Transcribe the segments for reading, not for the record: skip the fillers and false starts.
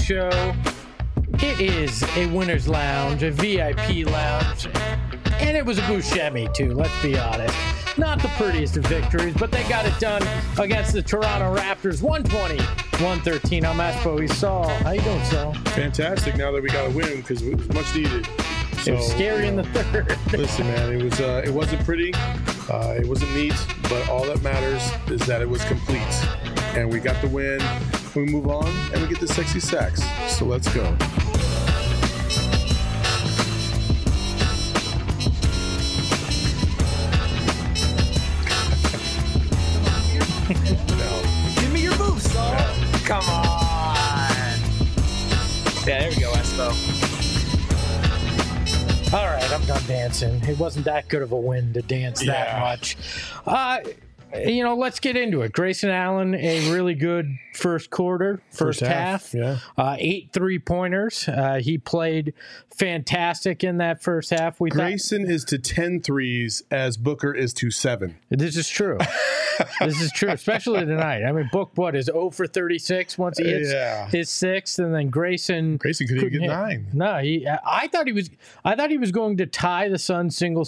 show. It is a winner's lounge, a VIP lounge, and it was a Buscemi too, let's be honest. Not the prettiest of victories, but they got it done against the Toronto Raptors, 120-113. I'm Espo. Saul. How you doing, Saul? Fantastic now that we got a win because it was much needed. So, it was scary in the third. Listen, man, it wasn't pretty, it wasn't neat, but all that matters is that it was complete. And we got the win, we move on, and we get the sexy sacks. So let's go. Give me your boost, Saul. Come on. Yeah, there we go, Espo. All right, I'm done dancing. It wasn't that good of a win to dance that much. Let's get into it. Grayson Allen, a really good first half. Yeah. 8 3-pointers. He played fantastic in that first half. Grayson is to 10 threes as Booker is to 7. This is true. This is true, especially tonight. I mean, Book, is 0 for 36 once he hits his sixth, and then Grayson couldn't even get 9. No, I thought he was going to tie the Suns single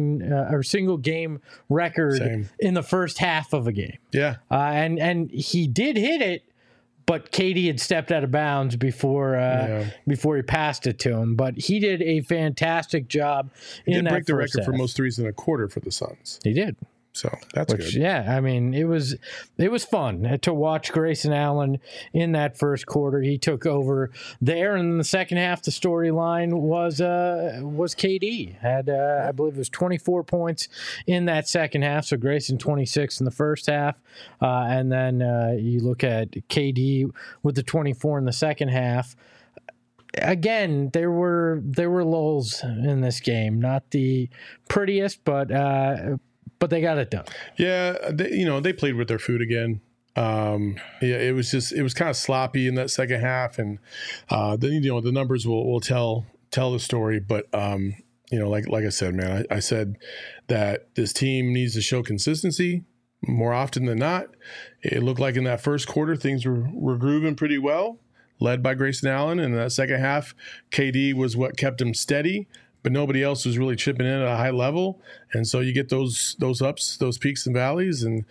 game record in the first half of a game. Yeah, and he did hit it, but KD had stepped out of bounds before he passed it to him. But he did a fantastic job. He did break the record for most threes in a quarter for the Suns. He did. So that's good. Yeah, I mean, it was fun to watch Grayson Allen in that first quarter. He took over there, and in the second half, the storyline was KD had I believe it was 24 points in that second half. So Grayson 26 in the first half, and then you look at KD with the 24 in the second half. Again, there were lulls in this game, not the prettiest, but they got it done. Yeah, they played with their food again. It was kind of sloppy in that second half, and then the numbers will tell the story. But like I said, man, I said that this team needs to show consistency more often than not. It looked like in that first quarter things were grooving pretty well, led by Grayson Allen, and in that second half, KD was what kept him steady. But nobody else was really chipping in at a high level. And so you get those ups, those peaks and valleys. And,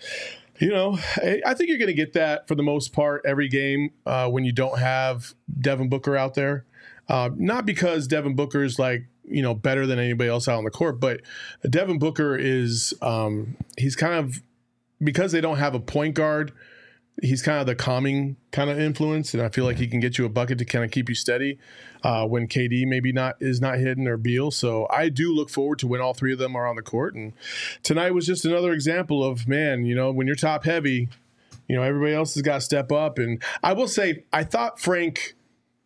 I think you're going to get that for the most part every game when you don't have Devin Booker out there. Not because Devin Booker is better than anybody else out on the court, but Devin Booker is he's kind of, because they don't have a point guard, he's kind of the calming kind of influence, and I feel like he can get you a bucket to kind of keep you steady when KD maybe is not hitting or Beal. So I do look forward to when all three of them are on the court. And tonight was just another example of, man, when you're top heavy, everybody else has got to step up. And I will say, I thought Frank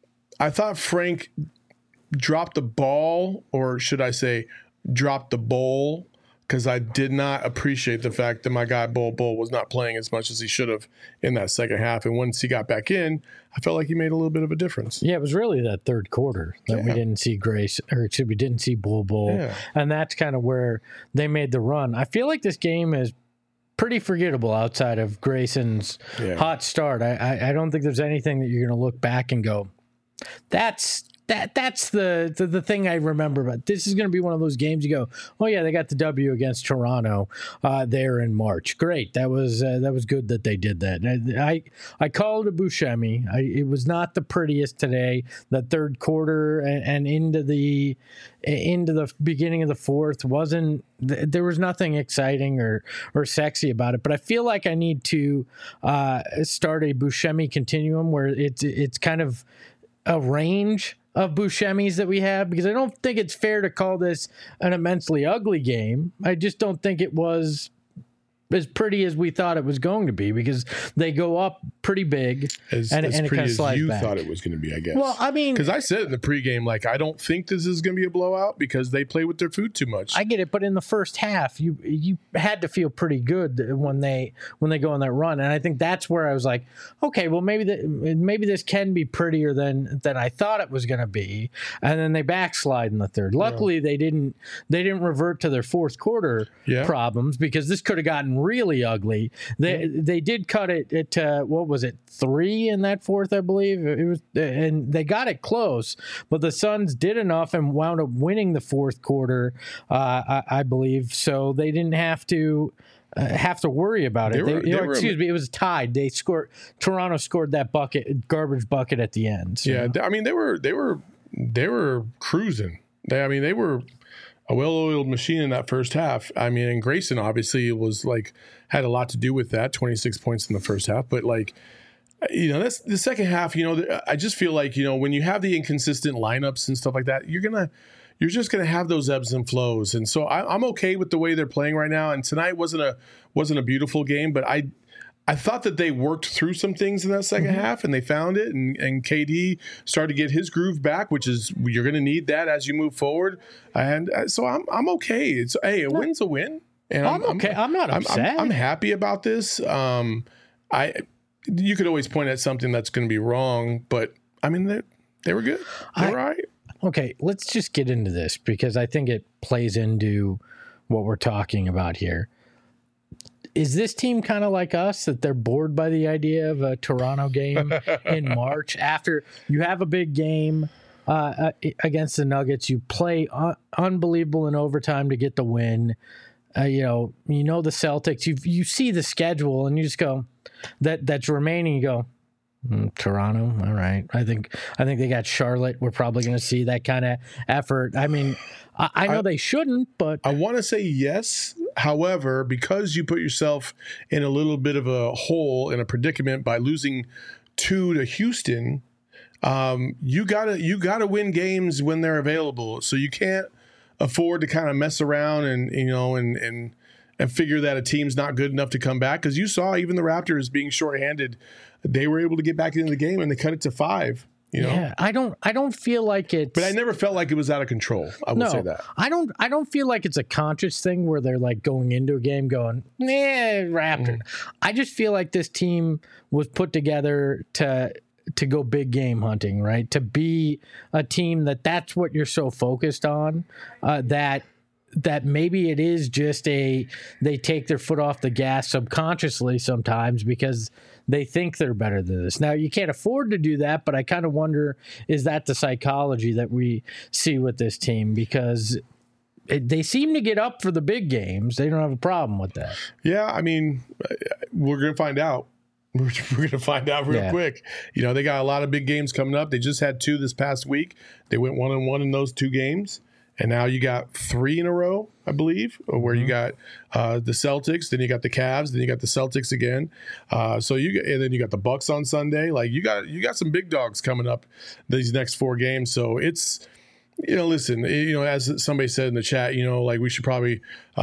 dropped the ball, or should I say dropped the bowl, because I did not appreciate the fact that my guy Bol was not playing as much as he should have in that second half. And once he got back in, I felt like he made a little bit of a difference. Yeah, it was really that third quarter that we didn't see we didn't see Bol. Yeah. And that's kind of where they made the run. I feel like this game is pretty forgettable outside of Grayson's hot start. I don't think there's anything that you're going to look back and go, that's the thing I remember. But this is going to be one of those games you go, oh yeah, they got the W against Toronto there in March. Great, that was good that they did that. I called it a Buscemi. It was not the prettiest today. That third quarter and into the beginning of the fourth wasn't. There was nothing exciting or sexy about it. But I feel like I need to start a Buscemi continuum where it's kind of a range of Buscemis that we have, because I don't think it's fair to call this an immensely ugly game. I just don't think it was as pretty as we thought it was going to be, because they go up pretty big as and it pretty kind of as slides you back. thought it was going to be, I guess. Well, I mean, because I said in the pregame, I don't think this is going to be a blowout because they play with their food too much. I get it, but in the first half, you had to feel pretty good when they go on that run, and I think that's where I was like, okay, well maybe this can be prettier than I thought it was going to be, and then they backslide in the third. Luckily, they didn't revert to their fourth quarter problems, because this could have gotten gotten really ugly. They did cut it at what was it, 3 in that fourth, I believe it was, and they got it close. But the Suns did enough and wound up winning the fourth quarter, I believe. So they didn't have to worry about it. Excuse me, it was tied. Toronto scored that garbage bucket at the end. So. Yeah, I mean they were cruising. They were a well-oiled machine in that first half. I mean, and Grayson obviously had a lot to do with that. 26 points in the first half, but that's the second half. I just feel like when you have the inconsistent lineups and stuff like that, you're just gonna have those ebbs and flows. And so I'm okay with the way they're playing right now. And tonight wasn't a beautiful game, but I thought that they worked through some things in that second half and they found it. And KD started to get his groove back, which is you're gonna need that as you move forward. And so I'm okay. A win's a win. And I'm okay. I'm not upset. I'm happy about this. You could always point at something that's going to be wrong, but I mean they were good. They were all right. Okay, let's just get into this because I think it plays into what we're talking about here. Is this team kind of like us, that they're bored by the idea of a Toronto game in March after you have a big game against the Nuggets? You play unbelievable in overtime to get the win. You know the Celtics. You see the schedule and you just go that's remaining. You go. Toronto, all right. I think they got Charlotte. We're probably going to see that kind of effort. I mean, I know they shouldn't, but I want to say yes. However, because you put yourself in a little bit of a hole, in a predicament by losing 2 to Houston, you gotta win games when they're available. So you can't afford to kind of mess around and figure that a team's not good enough to come back. Because you saw even the Raptors being shorthanded, they were able to get back into the game and they cut it to 5. Yeah, I don't feel like it's. But I never felt like it was out of control. I will say that. I don't feel like it's a conscious thing where they're like going into a game going, Raptor. I just feel like this team was put together to go big game hunting, right? To be a team that's what you're so focused on, that maybe it is just they take their foot off the gas subconsciously sometimes because they think they're better than this. Now, you can't afford to do that, but I kind of wonder, is that the psychology that we see with this team? Because they seem to get up for the big games. They don't have a problem with that. Yeah, I mean, we're going to find out. We're going to find out real quick. They got a lot of big games coming up. They just had 2 this past week. They went 1-1 in those 2 games. And now you got 3 in a row, I believe, where you got the Celtics, then you got the Cavs, then you got the Celtics again. And then you got the Bucks on Sunday. Like you got some big dogs coming up these next 4 games. So it's, listen, as somebody said in the chat, we should probably,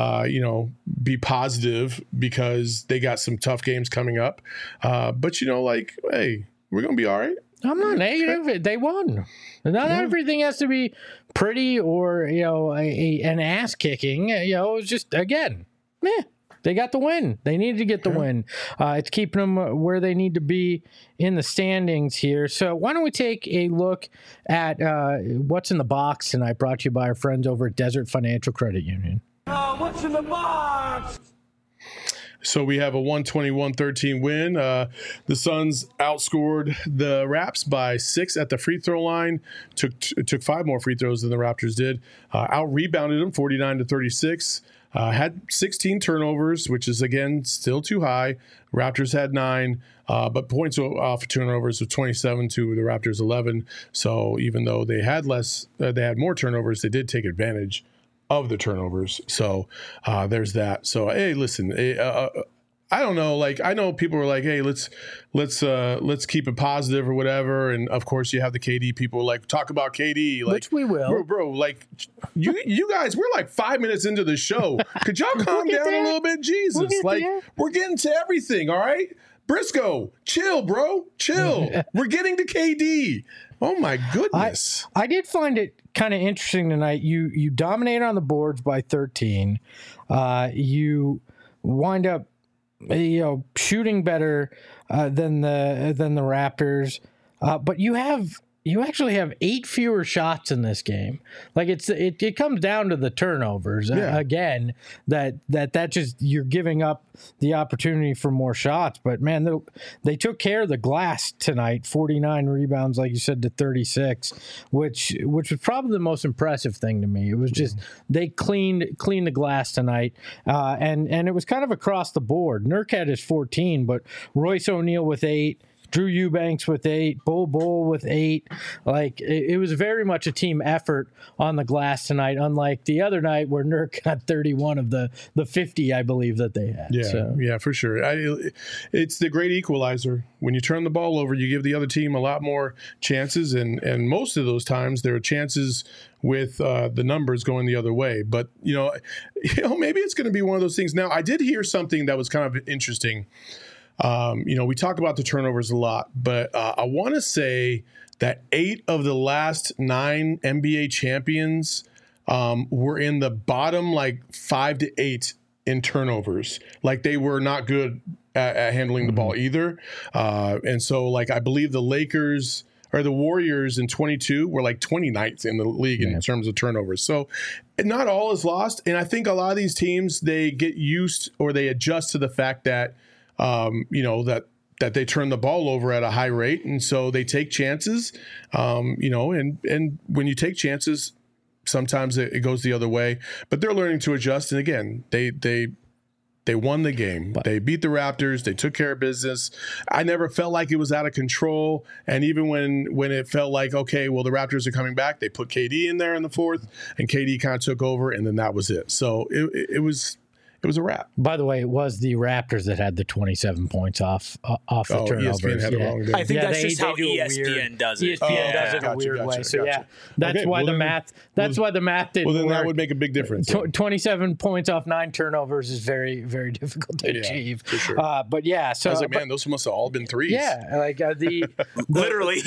be positive because they got some tough games coming up. But hey, we're gonna be all right. I'm not negative. They won. Not everything has to be pretty or an ass kicking. It's just again, they got the win. They needed to get the win. It's keeping them where they need to be in the standings here. So why don't we take a look at what's in the box tonight? Brought to you by our friends over at Desert Financial Credit Union. What's in the box? So we have a 121-13 win. The Suns outscored the Raps by 6 at the free throw line. Took 5 more free throws than the Raptors did. Out-rebounded them 49-36. Had 16 turnovers, which is, again, still too high. Raptors had 9, but points off turnovers of 27 to the Raptors 11. So even though they had more turnovers, they did take advantage of the turnovers. So there's that. So, hey, listen, I don't know. Like, I know people were like, hey, let's keep it positive or whatever. And of course you have the KD people like talk about KD, like, which we will, bro, like you guys, we're like 5 minutes into the show. Could y'all calm down a little bit? Jesus, we're getting to everything. All right. Briscoe, chill, bro. Chill. We're getting to KD. Oh my goodness. I did find it kind of interesting tonight. You dominated on the boards by 13. You wind up shooting better than the Raptors. But you have you actually have 8 fewer shots in this game. Like it comes down to the turnovers again. That just you're giving up the opportunity for more shots. But man, they took care of the glass tonight. 49 rebounds, like you said, to 36, which was probably the most impressive thing to me. It was just they cleaned the glass tonight, and it was kind of across the board. Nurk had his 14, but Royce O'Neal with 8. Drew Eubanks with 8, Bull with 8. Like it was very much a team effort on the glass tonight, unlike the other night where Nurk got 31 of the 50, I believe, that they had. Yeah, for sure. It's the great equalizer. When you turn the ball over, you give the other team a lot more chances, and most of those times there are chances with the numbers going the other way. But maybe it's going to be one of those things. Now, I did hear something that was kind of interesting. We talk about the turnovers a lot, but I want to say that 8 of the last 9 NBA champions were in the bottom 5 to 8 in turnovers. Like they were not good at handling the ball either. And so I believe the Lakers or the Warriors in 22 were 29th in the league in terms of turnovers. So not all is lost. And I think a lot of these teams, they get used or they adjust to the fact that that they turn the ball over at a high rate, and so they take chances. And when you take chances, sometimes it goes the other way. But they're learning to adjust. And again, they won the game. They beat the Raptors. They took care of business. I never felt like it was out of control. And even when it felt like, okay, well, the Raptors are coming back, they put KD in there in the fourth, and KD kind of took over, and then that was it. So it was a wrap. By the way, it was the Raptors that had the 27 points off the turnovers. ESPN had the wrong day. I think that's just how ESPN does it. ESPN does it in a weird way. So that's why the math. That's why the math didn't work. Well, then that would make a big difference. 27 points off 9 turnovers is very, very difficult to achieve. For sure. But yeah, so I was like, man, those must have all been threes. Yeah, literally.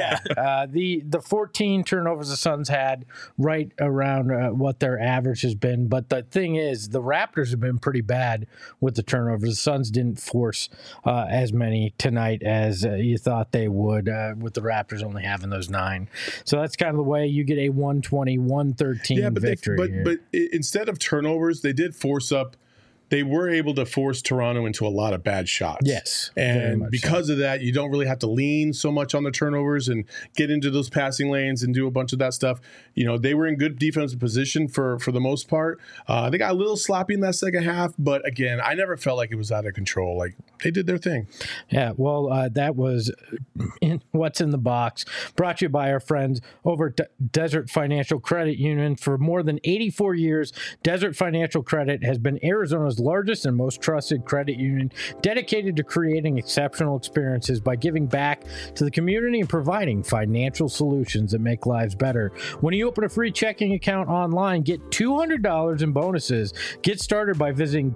The 14 turnovers the Suns had right around what their average has been. But the thing is, the Raptors have been pretty bad with the turnovers. The Suns didn't force as many tonight as you thought they would, with the Raptors only having those 9. So that's kind of the way you get a 120-113 victory. But instead of turnovers, they did force up. They were able to force Toronto into a lot of bad shots. Yes. And because of that, you don't really have to lean so much on the turnovers and get into those passing lanes and do a bunch of that stuff. They were in good defensive position for the most part. They got a little sloppy in that second half, but again, I never felt like it was out of control. Like they did their thing. Yeah, well, that was What's in the Box, brought to you by our friends over at Desert Financial Credit Union. For more than 84 years, Desert Financial Credit has been Arizona's largest and most trusted credit union, dedicated to creating exceptional experiences by giving back to the community and providing financial solutions that make lives better. When you open a free checking account online, get $200 in bonuses. Get started by visiting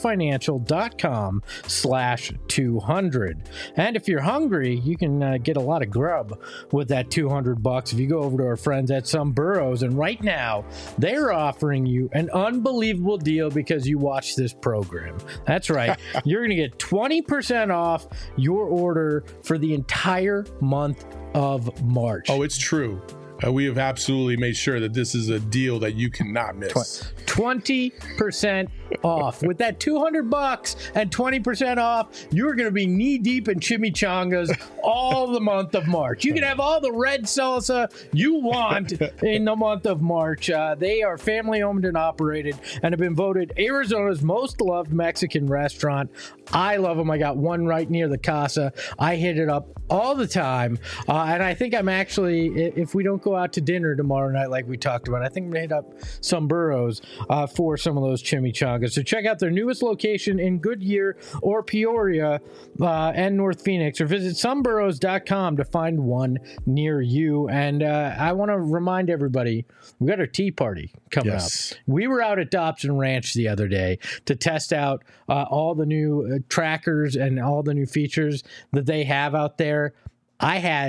desertfinancial.com/200. And if you're hungry, you can get a lot of grub with that $200 if you go over to our friends at Some Burrows. And right now, they're offering you an unbelievable deal because you watch this program. That's right. You're going to get 20% off your order for the entire month of March. Oh, it's true. We have absolutely made sure that this is a deal that you cannot miss. 20% off. With that $200 and 20% off, you're going to be knee deep in chimichangas all the month of March. You can have all the red salsa you want in the month of March. They are family owned and operated and have been voted Arizona's most loved Mexican restaurant. I love them. I got one right near the Casa. I hit it up all the time. And I think I'm actually, if we don't go out to dinner tomorrow night like we talked about, I think I'm going to hit up Some Burrows for some of those chimichangas. So check out their newest location in Goodyear or Peoria and North Phoenix, or visit someburrows.com to find one near you. And I want to remind everybody, we got our tea party coming up. We were out at Dobson Ranch the other day to test out all the new trackers and all the new features that they have out there. I had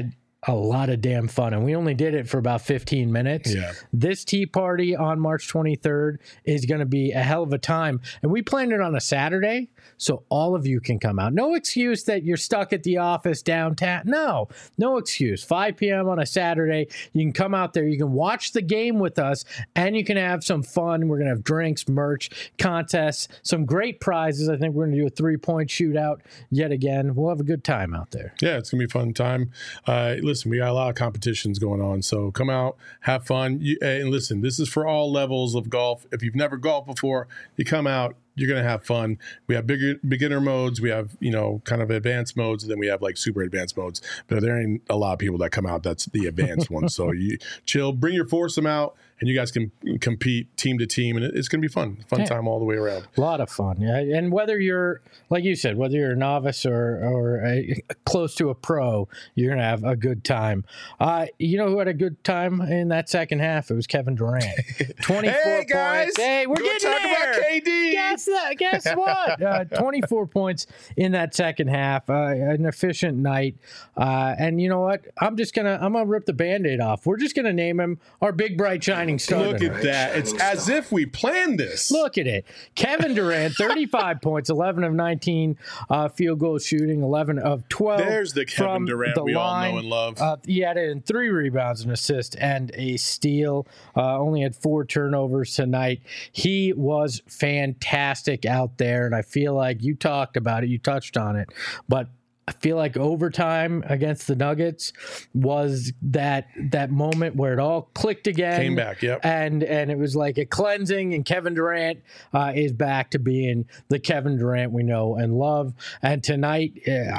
a lot of damn fun, and we only did it for about 15 minutes. Yeah. This tea party on March 23rd is going to be a hell of a time, and we planned it on a Saturday, so all of you can come out. No excuse that you're stuck at the office downtown. No excuse. 5 p.m. on a Saturday, you can come out there, you can watch the game with us, and you can have some fun. We're going to have drinks, merch, contests, some great prizes. I think we're going to do a 3-point shootout yet again. We'll have a good time out there. Yeah, it's going to be a fun time. Listen, we got a lot of competitions going on, so come out, have fun. And listen, this is for all levels of golf. If you've never golfed before, you come out, you're going to have fun. We have beginner modes. We have, kind of advanced modes. And then we have like super advanced modes. But there ain't a lot of people that come out. That's the advanced one. So you chill, bring your foursome out, and you guys can compete team to team. And it's going to be fun time all the way around. A lot of fun. Yeah. And whether you're, like you said, whether you're a novice or close to a pro, you're going to have a good time. You know who had a good time in that second half? It was Kevin Durant. 24 hey, guys. points. Hey, we're getting talk there. About KD. Guess what? 24 points in that second half. An efficient night. And you know what? I'm gonna rip the Band-Aid off. We're just gonna name him our big bright shining star. Look at that. It's as if we planned this. Look at it. Kevin Durant, 35 points, 11 of 19 field goal shooting, 11 of 12. There's the Kevin Durant we all know and love. He added in 3 rebounds, an assist, and a steal. Only had 4 turnovers tonight. He was fantastic out there, and I feel like you talked about it, you touched on it, but I feel like overtime against the Nuggets was that moment where it all clicked again. Came back, yep. And it was like a cleansing, and Kevin Durant is back to being the Kevin Durant we know and love. And tonight,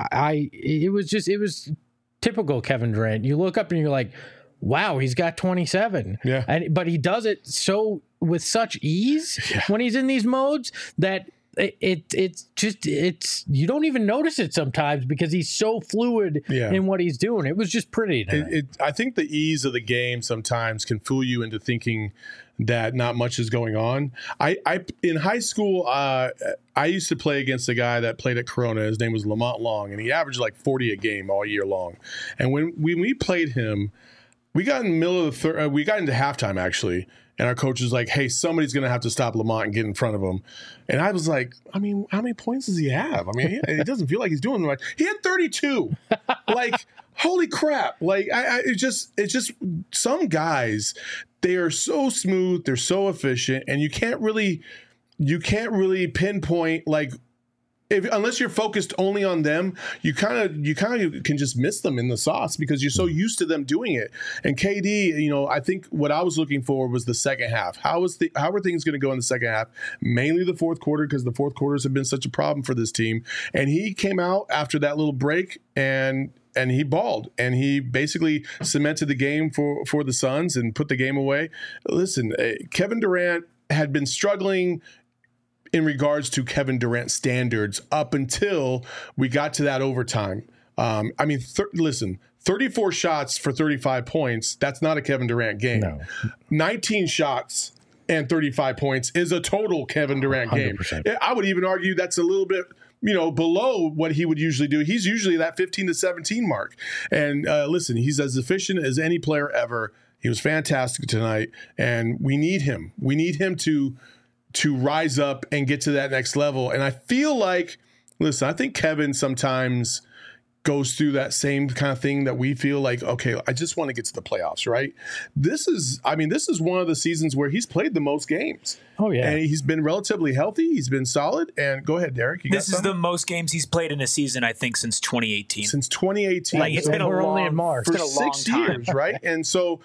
it was typical Kevin Durant. You look up and you're like, wow, he's got 27. Yeah. But he does it with such ease when he's in these modes that it's you don't even notice it sometimes because he's so fluid in what he's doing. It was just pretty. I think the ease of the game sometimes can fool you into thinking that not much is going on. I in high school, I used to play against a guy that played at Corona. His name was Lamont Long, and he averaged like 40 a game all year long. And when we played him, we got in the middle of the we got into halftime actually. And our coach was like, hey, somebody's going to have to stop Lamont and get in front of him. And I was like, how many points does he have? It doesn't feel like he's doing much. He had 32. Like, holy crap. Like, it's just some guys, they are so smooth. They're so efficient. And you can't really pinpoint, like, unless you're focused only on them, you kind of can just miss them in the sauce because you're so used to them doing it. And KD, I think what I was looking for was the second half. How are things going to go in the second half? Mainly the fourth quarter, because the fourth quarters have been such a problem for this team. And he came out after that little break and he balled, and he basically cemented the game for the Suns and put the game away. Listen, Kevin Durant had been struggling in regards to Kevin Durant standards up until we got to that overtime. Listen, 34 shots for 35 points, that's not a Kevin Durant game. No. 19 shots and 35 points is a total Kevin Durant 100%. Game. I would even argue that's a little bit below what he would usually do. He's usually that 15 to 17 mark. And listen, he's as efficient as any player ever. He was fantastic tonight, and we need him. We need him to rise up and get to that next level. And I feel like, listen, I think Kevin sometimes goes through that same kind of thing that we feel like, okay, I just want to get to the playoffs, right? This is one of the seasons where he's played the most games. Oh, yeah. And he's been relatively healthy. He's been solid. And go ahead, Derek. This is the most games he's played in a season, I think, since 2018. Since 2018. Like, it's been a long, only in March. For 6 years, right? And so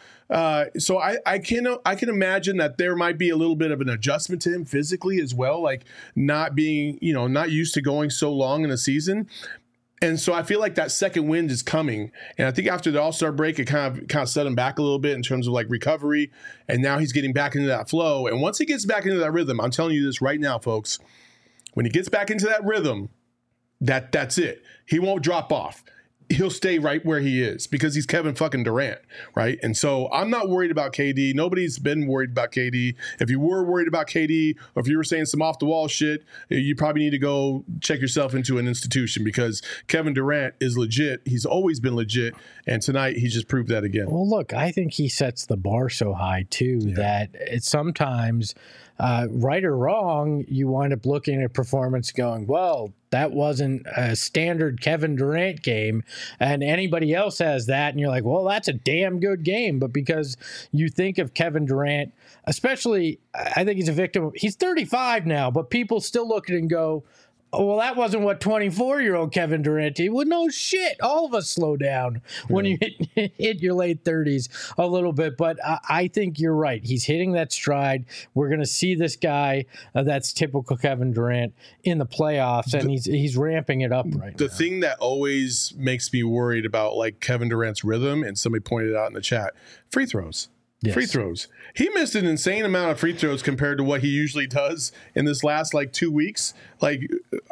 I can imagine that there might be a little bit of an adjustment to him physically as well, like not being, not used to going so long in a season. And so I feel like that second wind is coming. And I think after the All-Star break, it kind of set him back a little bit in terms of like recovery. And now he's getting back into that flow. And once he gets back into that rhythm, I'm telling you this right now, folks, when he gets back into that rhythm, that's it. He won't drop off. he'll stay right where he is because he's Kevin fucking Durant, right? And so I'm not worried about KD. Nobody's been worried about KD. If you were worried about KD, or if you were saying some off the wall shit, you probably need to go check yourself into an institution because Kevin Durant is legit. He's always been legit, and tonight he just proved that again. Well, look, I think he sets the bar so high too that it's sometimes, right or wrong, you wind up looking at performance going, well, that wasn't a standard Kevin Durant game, and anybody else has that, and you're like, well, that's a damn good game. But because you think of Kevin Durant, especially, I think he's a victim. He's 35 now, but people still look at it and go, oh, well, that wasn't what 24-year-old Kevin Durant did. Well, no shit. All of us slow down when you hit your late 30s a little bit. But I think you're right. He's hitting that stride. We're going to see this guy that's typical Kevin Durant in the playoffs, and he's ramping it up right now. The thing that always makes me worried about like Kevin Durant's rhythm, and somebody pointed it out in the chat, free throws. Yes. Free throws. He missed an insane amount of free throws compared to what he usually does in this last like 2 weeks. Like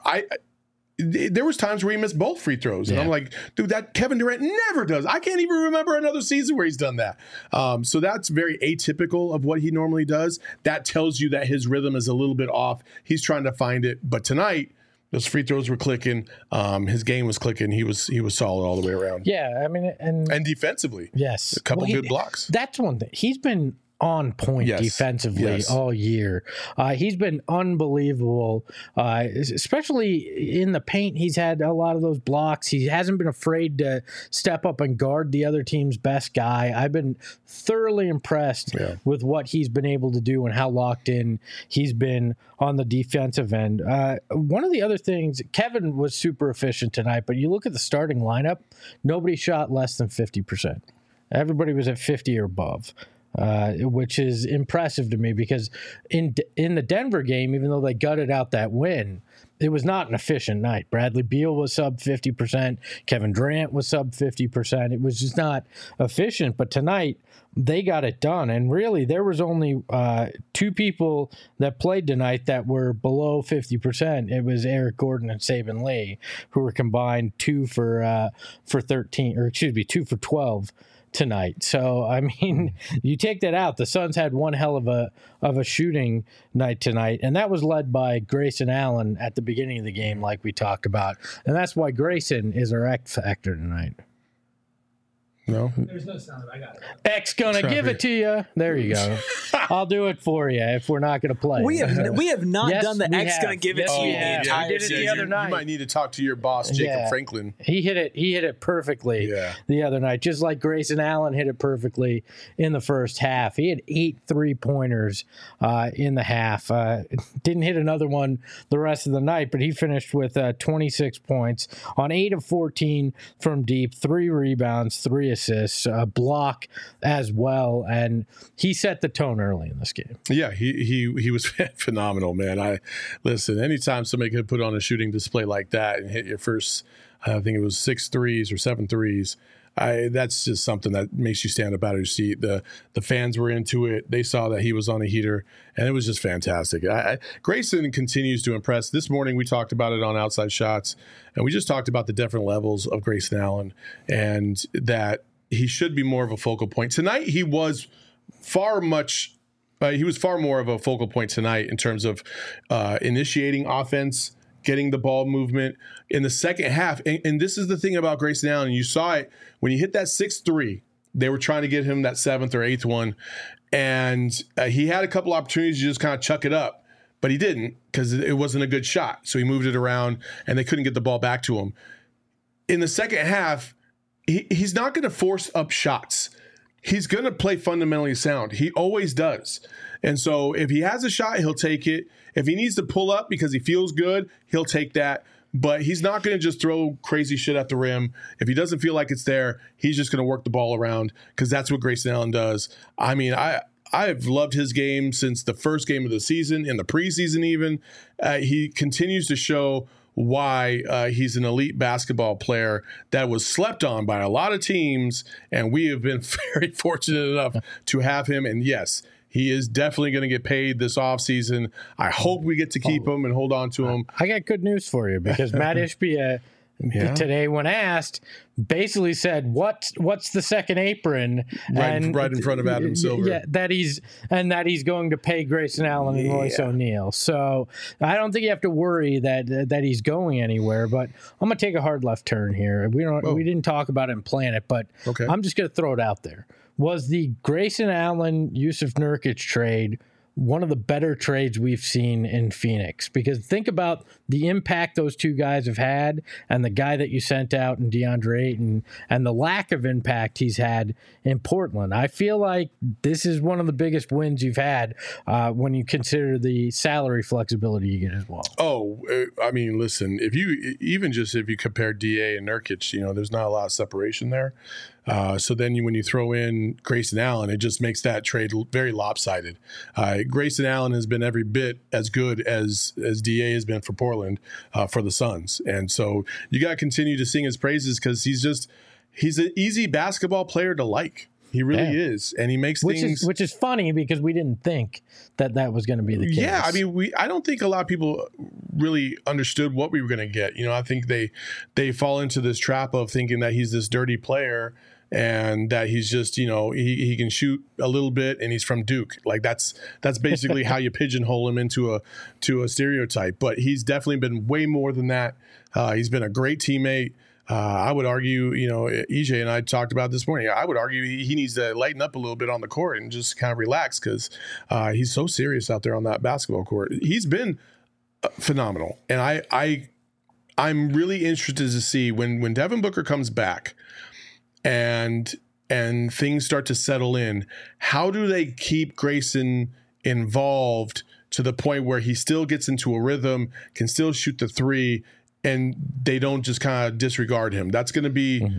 there was times where he missed both free throws, and I'm like, dude, that Kevin Durant never does. I can't even remember another season where he's done that. So that's very atypical of what he normally does. That tells you that his rhythm is a little bit off. He's trying to find it, but tonight, those free throws were clicking. His game was clicking. He was solid all the way around. Yeah, I mean, and defensively, yes, a couple good blocks. That's one thing. He's been on point defensively all year. He's been unbelievable, especially in the paint. He's had a lot of those blocks. He hasn't been afraid to step up and guard the other team's best guy. I've been thoroughly impressed with what he's been able to do and how locked in he's been on the defensive end. One of the other things, Kevin was super efficient tonight, but you look at the starting lineup, nobody shot less than 50%. Everybody was at 50 or above. Which is impressive to me because in the Denver game, even though they gutted out that win, it was not an efficient night. Bradley Beal was sub 50%. Kevin Durant was sub 50%. It was just not efficient. But tonight, they got it done. And really, there was only two people that played tonight that were below 50%. It was Eric Gordon and Saban Lee, who were combined 2 for 12 tonight. So, I mean, you take that out. The Suns had one hell of a shooting night tonight, and that was led by Grayson Allen at the beginning of the game, like we talked about. And that's why Grayson is our X factor tonight. No? There's no sound. I got it. X gonna give it to you. There you go. I'll do it for you if we're not going to play. We have not done the X gonna give it to you the entire did it the other night. You might need to talk to your boss, Jacob Franklin. He hit it perfectly the other night, just like Grayson Allen hit it perfectly in the first half. He had 8 3-pointers in the half. Didn't hit another one the rest of the night, but he finished with 26 points on 8 of 14 from deep, 3 rebounds, 3 assists, a block as well, and he set the tone early in this game. Yeah, he was phenomenal, man. Listen, anytime somebody could put on a shooting display like that and hit your first, I think it was 6 threes or 7 threes, that's just something that makes you stand up out of your seat. The fans were into it. They saw that he was on a heater, and it was just fantastic. Grayson continues to impress. This morning we talked about it on Outside Shots, and we just talked about the different levels of Grayson Allen and that he should be more of a focal point. Tonight he was far more of a focal point tonight in terms of initiating offense, getting the ball movement in the second half. And this is the thing about Grayson Allen. You saw it when he hit that 6-3. They were trying to get him that 7th or 8th one. And he had a couple opportunities to just kind of chuck it up, but he didn't because it wasn't a good shot. So he moved it around and they couldn't get the ball back to him. In the second half, he's not going to force up shots. He's going to play fundamentally sound. He always does. And so if he has a shot, he'll take it. If he needs to pull up because he feels good, he'll take that. But he's not going to just throw crazy shit at the rim. If he doesn't feel like it's there, he's just going to work the ball around because that's what Grayson Allen does. I mean, I've loved his game since the first game of the season, in the preseason even. He continues to show why he's an elite basketball player that was slept on by a lot of teams, and we have been very fortunate enough to have him. And yes, he is definitely going to get paid this offseason. I hope we get to keep him and hold on to him. I got good news for you because Matt Ishbia today when asked, basically said, what's the second apron? Right in front of Adam Silver. Yeah, that he's going to pay Grayson Allen and Royce O'Neal. So I don't think you have to worry that he's going anywhere. But I'm gonna take a hard left turn here. We didn't talk about it and plan it, but I'm just gonna throw it out there. Was the Grayson Allen Yusuf Nurkic trade one of the better trades we've seen in Phoenix? Because think about the impact those two guys have had, and the guy that you sent out in DeAndre Ayton, and the lack of impact he's had in Portland. I feel like this is one of the biggest wins you've had when you consider the salary flexibility you get as well. Oh, I mean, listen, if you compare DA and Nurkic, there's not a lot of separation there. So then when you throw in Grayson Allen, it just makes that trade very lopsided. Grayson Allen has been every bit as good as DA has been for Portland, for the Suns. And so you got to continue to sing his praises because he's an easy basketball player to like. He really is. And he makes things. Which is funny because we didn't think that was going to be the case. Yeah. I mean, I don't think a lot of people really understood what we were going to get. I think they fall into this trap of thinking that he's this dirty player and that he's just, he can shoot a little bit and he's from Duke. Like that's basically how you pigeonhole him into a stereotype. But he's definitely been way more than that. He's been a great teammate. I would argue, EJ and I talked about this morning. I would argue he needs to lighten up a little bit on the court and just kind of relax because he's so serious out there on that basketball court. He's been phenomenal. And I'm really interested to see when Devin Booker comes back and things start to settle in, how do they keep Grayson involved to the point where he still gets into a rhythm, can still shoot the three, and they don't just kind of disregard him? That's going to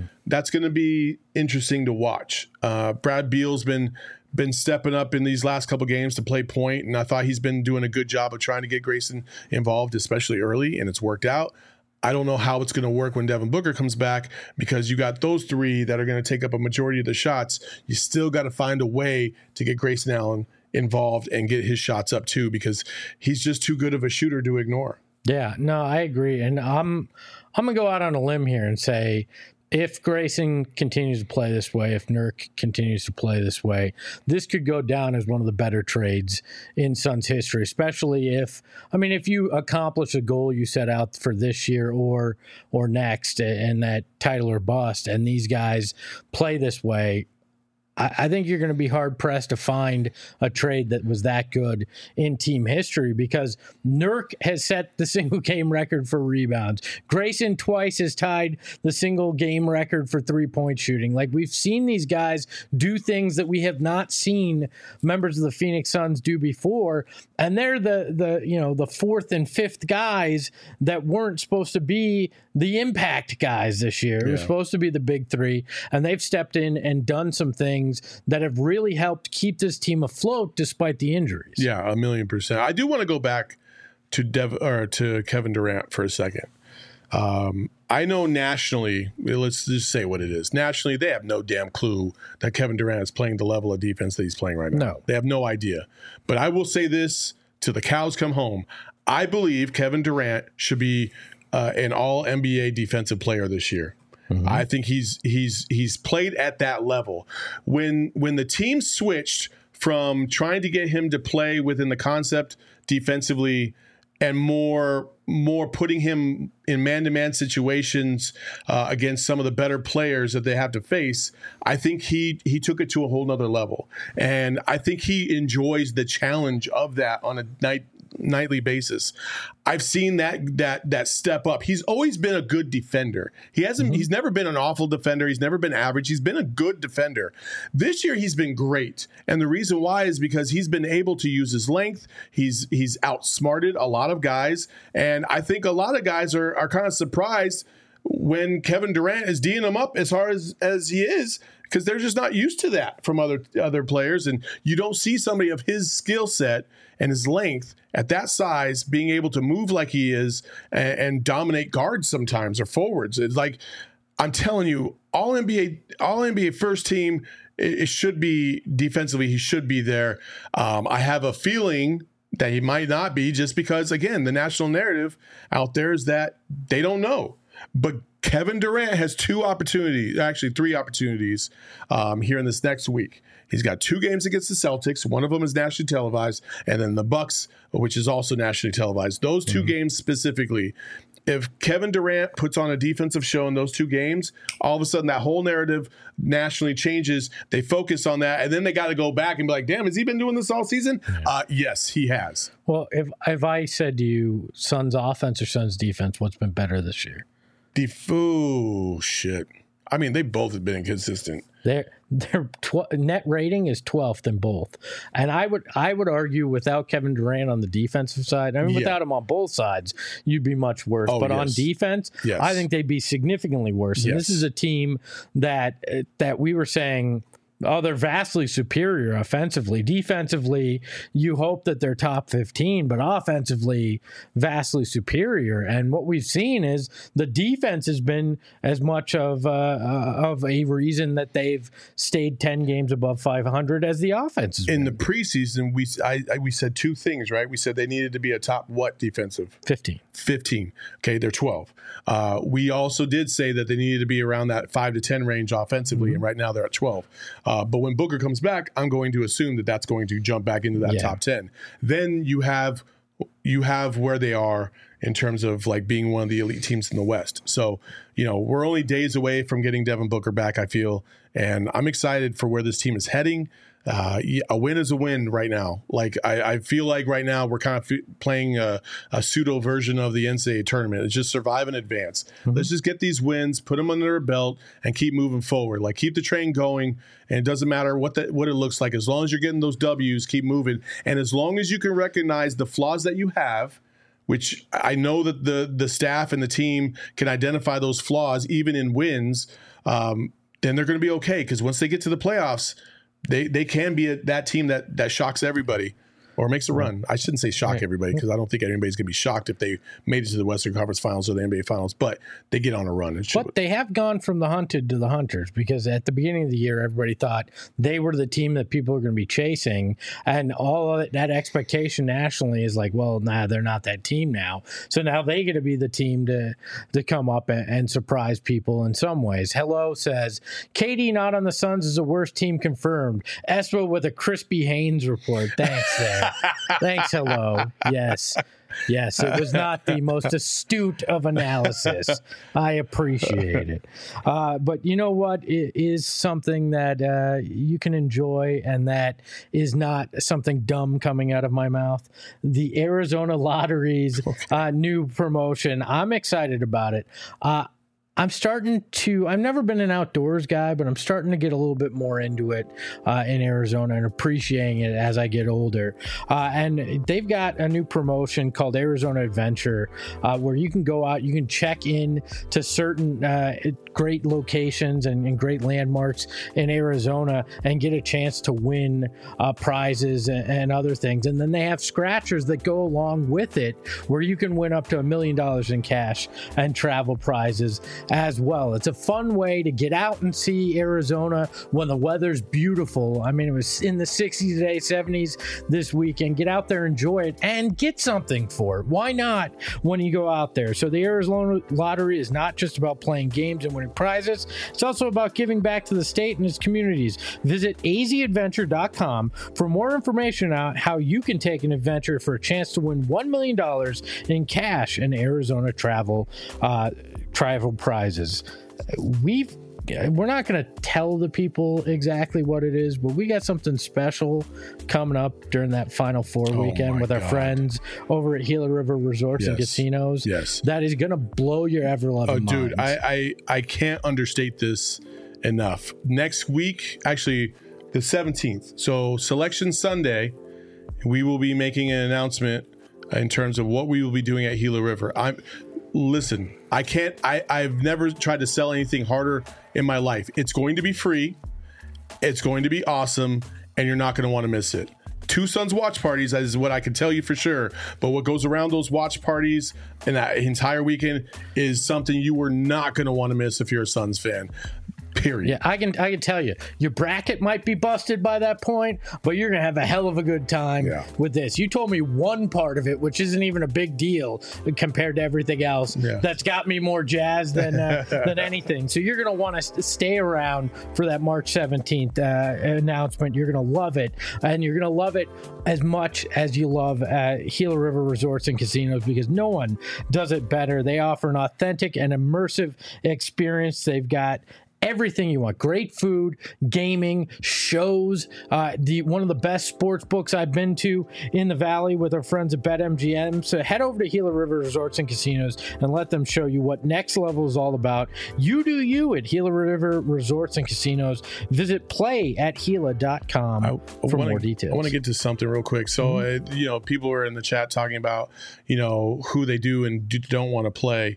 be interesting to watch. Brad Beal's been stepping up in these last couple games to play point, and I thought he's been doing a good job of trying to get Grayson involved, especially early, and it's worked out. I don't know how it's going to work when Devin Booker comes back because you got those three that are going to take up a majority of the shots. You still got to find a way to get Grayson Allen involved and get his shots up too, because he's just too good of a shooter to ignore. Yeah, no, I agree. And I'm going to go out on a limb here and say, if Grayson continues to play this way, if Nurk continues to play this way, this could go down as one of the better trades in Suns history, especially if you accomplish a goal you set out for this year or next, and that title or bust, and these guys play this way. I think you're going to be hard-pressed to find a trade that was that good in team history, because Nurk has set the single-game record for rebounds. Grayson twice has tied the single-game record for three-point shooting. Like, we've seen these guys do things that we have not seen members of the Phoenix Suns do before, and they're the fourth and fifth guys that weren't supposed to be the impact guys this year. It was supposed to be the big three, and they've stepped in and done some things that have really helped keep this team afloat despite the injuries. Yeah, 1,000,000%. I do want to go back to Kevin Durant for a second. I know nationally, let's just say what it is. Nationally, they have no damn clue that Kevin Durant is playing the level of defense that he's playing right now. No. They have no idea. But I will say this till the cows come home. I believe Kevin Durant should be an all-NBA defensive player this year. Mm-hmm. I think he's played at that level. When the team switched from trying to get him to play within the concept defensively and more putting him in man-to-man situations against some of the better players that they have to face, I think he took it to a whole nother level. And I think he enjoys the challenge of that on a nightly basis. I've seen that step up. He's always been a good defender. He's never been an awful defender. He's never been average. He's been a good defender. This year he's been great. And the reason why is because he's been able to use his length. He's outsmarted a lot of guys. And I think a lot of guys are kind of surprised when Kevin Durant is D'ing them up as hard as he is, because they're just not used to that from other players. And you don't see somebody of his skill set and his length at that size being able to move like he is and dominate guards sometimes or forwards. It's like, I'm telling you, all NBA first team, it should be defensively, he should be there. I have a feeling that he might not be, just because, again, the national narrative out there is that they don't know. But Kevin Durant has three opportunities here in this next week. He's got 2 games against the Celtics. One of them is nationally televised, and then the Bucks, which is also nationally televised. Those 2 games specifically, if Kevin Durant puts on a defensive show in those 2 games, all of a sudden that whole narrative nationally changes. They focus on that, and then they got to go back and be like, damn, has he been doing this all season? Yes, he has. Well, if I said to you, Suns offense or Suns defense, what's been better this year? Shit. I mean, they both have been inconsistent. Their net rating is 12th in both, and I would argue without Kevin Durant on the defensive side, I mean without him on both sides, you'd be much worse. But on defense, I think they'd be significantly worse. And this is a team that we were saying, oh, they're vastly superior offensively. Defensively, you hope that they're top 15, but offensively, vastly superior. And what we've seen is the defense has been as much of a reason that they've stayed 10 games above 500 as the offense. In the preseason, we said 2 things, right? We said they needed to be a top what defensive? 15. Okay, they're 12. We also did say that they needed to be around that 5 to 10 range offensively, and right now they're at 12. But when Booker comes back, I'm going to assume that that's going to jump back into that top 10. Then you have where they are in terms of like being one of the elite teams in the West. So, we're only days away from getting Devin Booker back, I feel, and I'm excited for where this team is heading. A win is a win right now. Like I feel like right now we're kind of playing a pseudo version of the NCAA tournament. It's just survive and advance. Let's just get these wins, put them under our belt, and keep moving forward. Like keep the train going, and it doesn't matter what it looks like. As long as you're getting those W's, keep moving. And as long as you can recognize the flaws that you have, which I know that the staff and the team can identify those flaws even in wins, then they're going to be okay. Because once they get to the playoffs, they can be that team that shocks everybody or makes a run. I shouldn't say shock everybody because I don't think anybody's going to be shocked if they made it to the Western Conference Finals or the NBA Finals, but they get on a run. But they have gone from the hunted to the hunters because at the beginning of the year, everybody thought they were the team that people are going to be chasing. And all of that expectation nationally is like, well, they're not that team now. So now they get to be the team to come up and surprise people in some ways. Hello says, KD not on the Suns is the worst team confirmed. Espo with a Crispy Haynes report. Thanks there. Thanks, hello. Yes, it was not the most astute of analysis. I appreciate it. But you know what? It is something that you can enjoy, and that is not something dumb coming out of my mouth. The Arizona Lottery's new promotion. I'm excited about it. I've never been an outdoors guy, but I'm starting to get a little bit more into it in Arizona and appreciating it as I get older. And they've got a new promotion called Arizona Adventure, where you can go out, you can check in to certain great locations and great landmarks in Arizona and get a chance to win prizes and other things. And then they have scratchers that go along with it, where you can win up to $1 million in cash and travel prizes as well. It's a fun way to get out and see Arizona when the weather's beautiful. I mean, it was in the 60s today, 70s this weekend. Get out there, enjoy it, and get something for it. Why not when you go out there? So the Arizona Lottery is not just about playing games and winning prizes. It's also about giving back to the state and its communities. Visit azadventure.com for more information on how you can take an adventure for a chance to win $1 million in cash and Arizona travel prizes. We're not going to tell the people exactly what it is, but we got something special coming up during that Final Four weekend with our friends over at Gila River Resorts and Casinos. Yes. That is going to blow your ever-loving minds. Dude, I can't understate this enough. Next week, actually the 17th, so Selection Sunday, we will be making an announcement in terms of what we will be doing at Gila River. Listen, I've never tried to sell anything harder in my life. It's going to be free. It's going to be awesome, and you're not going to want to miss it. 2 Suns watch parties, that is what I can tell you for sure. But what goes around those watch parties and that entire weekend is something you were not going to want to miss if you're a Suns fan. period. Yeah, I can tell you, your bracket might be busted by that point, but you're gonna have a hell of a good time with this. You told me one part of it, which isn't even a big deal compared to everything else. That's got me more jazzed than anything. So you're gonna want to stay around for that March 17th announcement. You're gonna love it, and you're gonna love it as much as you love Gila River Resorts and Casinos, because no one does it better. They offer an authentic and immersive experience. They've got everything you want. Great food, gaming, shows, one of the best sports books I've been to in the Valley with our friends at BetMGM. So head over to Gila River Resorts and Casinos and let them show you what next level is all about. You do you at Gila River Resorts and Casinos. Visit play@gila.com for more details. I want to get to something real quick. So, people were in the chat talking about, who they do and don't want to play.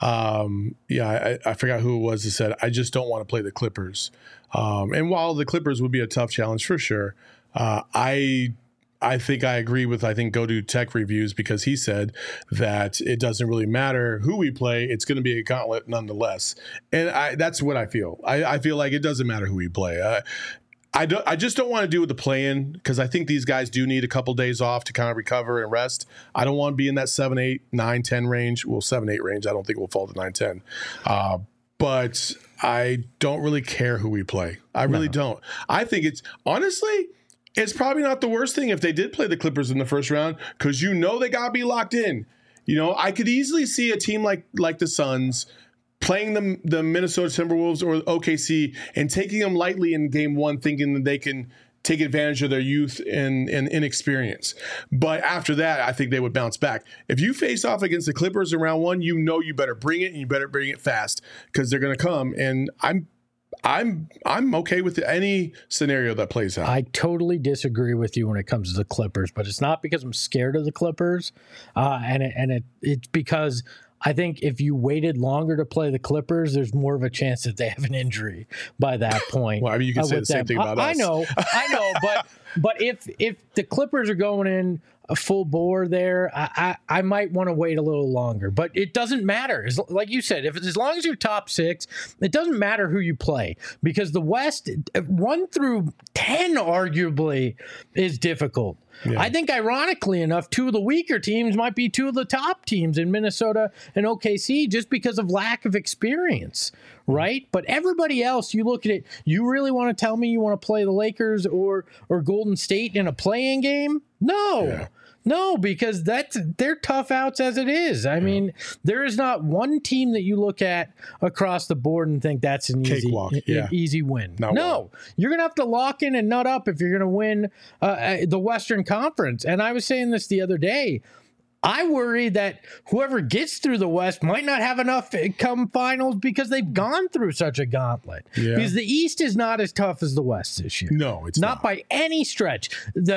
I forgot who it was that said, I just don't want to play the Clippers. And while the Clippers would be a tough challenge for sure, I think I agree with, Go Do Tech Reviews, because he said that it doesn't really matter who we play. It's going to be a gauntlet nonetheless. And that's what I feel. I feel like it doesn't matter who we play. I just don't want to do with the play-in, because I think these guys do need a couple days off to kind of recover and rest. I don't want to be in that 7, 8, 9, 10 range. Well, 7, 8 range. I don't think we'll fall to 9, 10. But I don't really care who we play. I really don't. I think honestly, it's probably not the worst thing if they did play the Clippers in the first round, because they got to be locked in. I could easily see a team like the Suns playing the Minnesota Timberwolves or OKC and taking them lightly in game one, thinking that they can take advantage of their youth and inexperience. But after that, I think they would bounce back. If you face off against the Clippers in round one, you better bring it, and you better bring it fast, because they're going to come. And I'm okay with any scenario that plays out. I totally disagree with you when it comes to the Clippers, but it's not because I'm scared of the Clippers, it's because I think if you waited longer to play the Clippers, there's more of a chance that they have an injury by that point. Well, you can say the same thing about us. I know, but if the Clippers are going in a full bore there, I might want to wait a little longer. But it doesn't matter. Like you said, as long as you're top 6, it doesn't matter who you play, because the West, 1 through 10 arguably is difficult. Yeah. I think, ironically enough, 2 of the weaker teams might be 2 of the top teams in Minnesota and OKC, just because of lack of experience, right? But everybody else, you look at it, you really want to tell me you want to play the Lakers or Golden State in a play-in game? No. Yeah. No, because they're tough outs as it is. I mean, there is not one team that you look at across the board and think that's an easy win. No, you're going to have to lock in and nut up if you're going to win the Western Conference. And I was saying this the other day. I worry that whoever gets through the West might not have enough come finals, because they've gone through such a gauntlet. Yeah. Because the East is not as tough as the West this year. No, it's not by any stretch.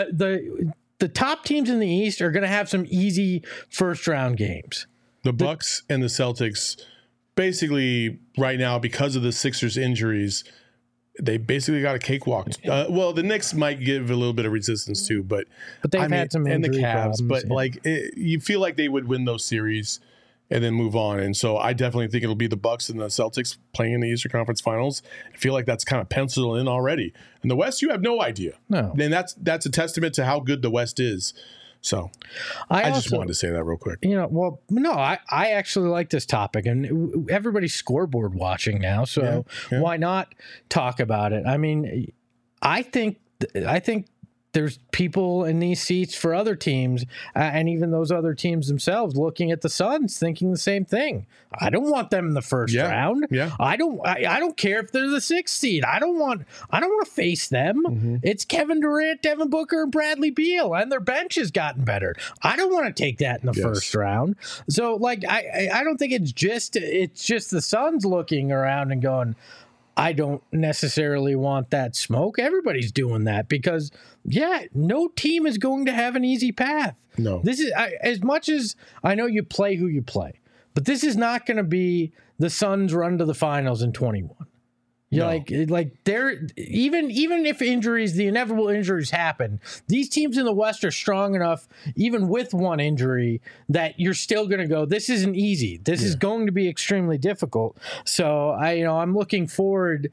The top teams in the East are going to have some easy first-round games. The Bucks and the Celtics, basically right now, because of the Sixers' injuries, they basically got a cakewalk. Well, the Knicks might give a little bit of resistance too, but they've had some injury problems. But you feel like they would win those series and then move on. And so I definitely think it'll be the Bucks and the Celtics playing in the Eastern Conference Finals. I feel like that's kind of penciled in already. In the West, you have no idea. No. And that's a testament to how good the West is. So I just wanted to say that real quick. I actually like this topic, and everybody's scoreboard watching now. So why not talk about it? I mean, I think there's people in these seats for other teams, and even those other teams themselves looking at the Suns thinking the same thing. I don't want them in the first round. Yeah. I don't care if they're the 6th seed. I don't want to face them. Mm-hmm. It's Kevin Durant, Devin Booker, and Bradley Beal, and their bench has gotten better. I don't want to take that in the first round. So I don't think it's just the Suns looking around and going, I don't necessarily want that smoke. Everybody's doing that because, no team is going to have an easy path. No. This is as much as I know you play who you play, but this is not going to be the Suns' run to the finals in 21. Like they're even if injuries, the inevitable injuries happen, these teams in the West are strong enough, even with one injury, that you're still going to go, this isn't easy. This is going to be extremely difficult. So I'm looking forward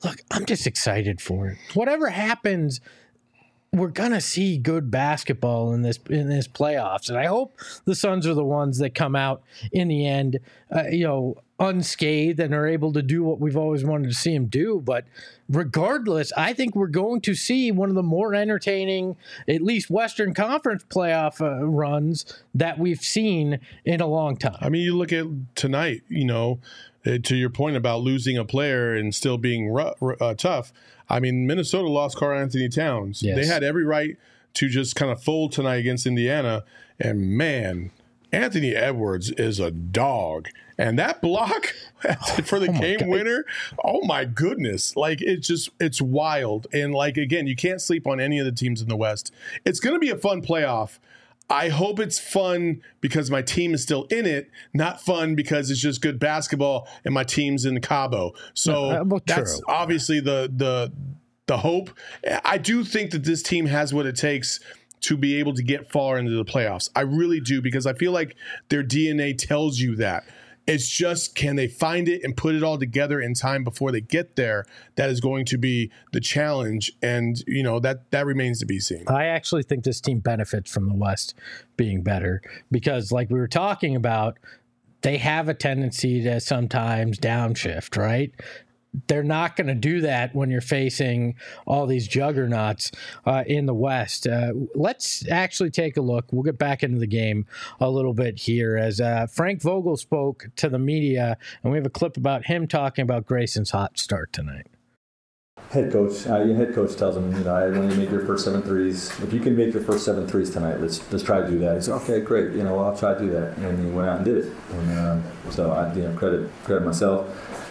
look, I'm just excited for it. Whatever happens, we're gonna see good basketball in this playoffs, and I hope the Suns are the ones that come out in the end, unscathed and are able to do what we've always wanted to see them do. But regardless, I think we're going to see one of the more entertaining, at least Western Conference playoff runs that we've seen in a long time. I mean, you look at tonight, to your point about losing a player and still being tough. I mean, Minnesota lost Karl-Anthony Towns. Yes. They had every right to just kind of fold tonight against Indiana. And man, Anthony Edwards is a dog. And that block for the game winner, oh my goodness. Like, it's wild. And like, again, you can't sleep on any of the teams in the West. It's going to be a fun playoff. I hope it's fun because my team is still in it, not fun because it's just good basketball and my team's in Cabo. So that's obviously the hope. I do think that this team has what it takes to be able to get far into the playoffs. I really do, because I feel like their DNA tells you that. It's just, can they find it and put it all together in time before they get there? That is going to be the challenge. And, that remains to be seen. I actually think this team benefits from the West being better because, like we were talking about, they have a tendency to sometimes downshift, right? They're not going to do that when you're facing all these juggernauts in the West. Let's actually take a look. We'll get back into the game a little bit here as Frank Vogel spoke to the media, and we have a clip about him talking about Grayson's hot start tonight. Your head coach tells him, when you make your first 7 threes, if you can make your first 7 threes tonight, let's try to do that. He said, okay, great. I'll try to do that. And he went out and did it. And so I, credit myself.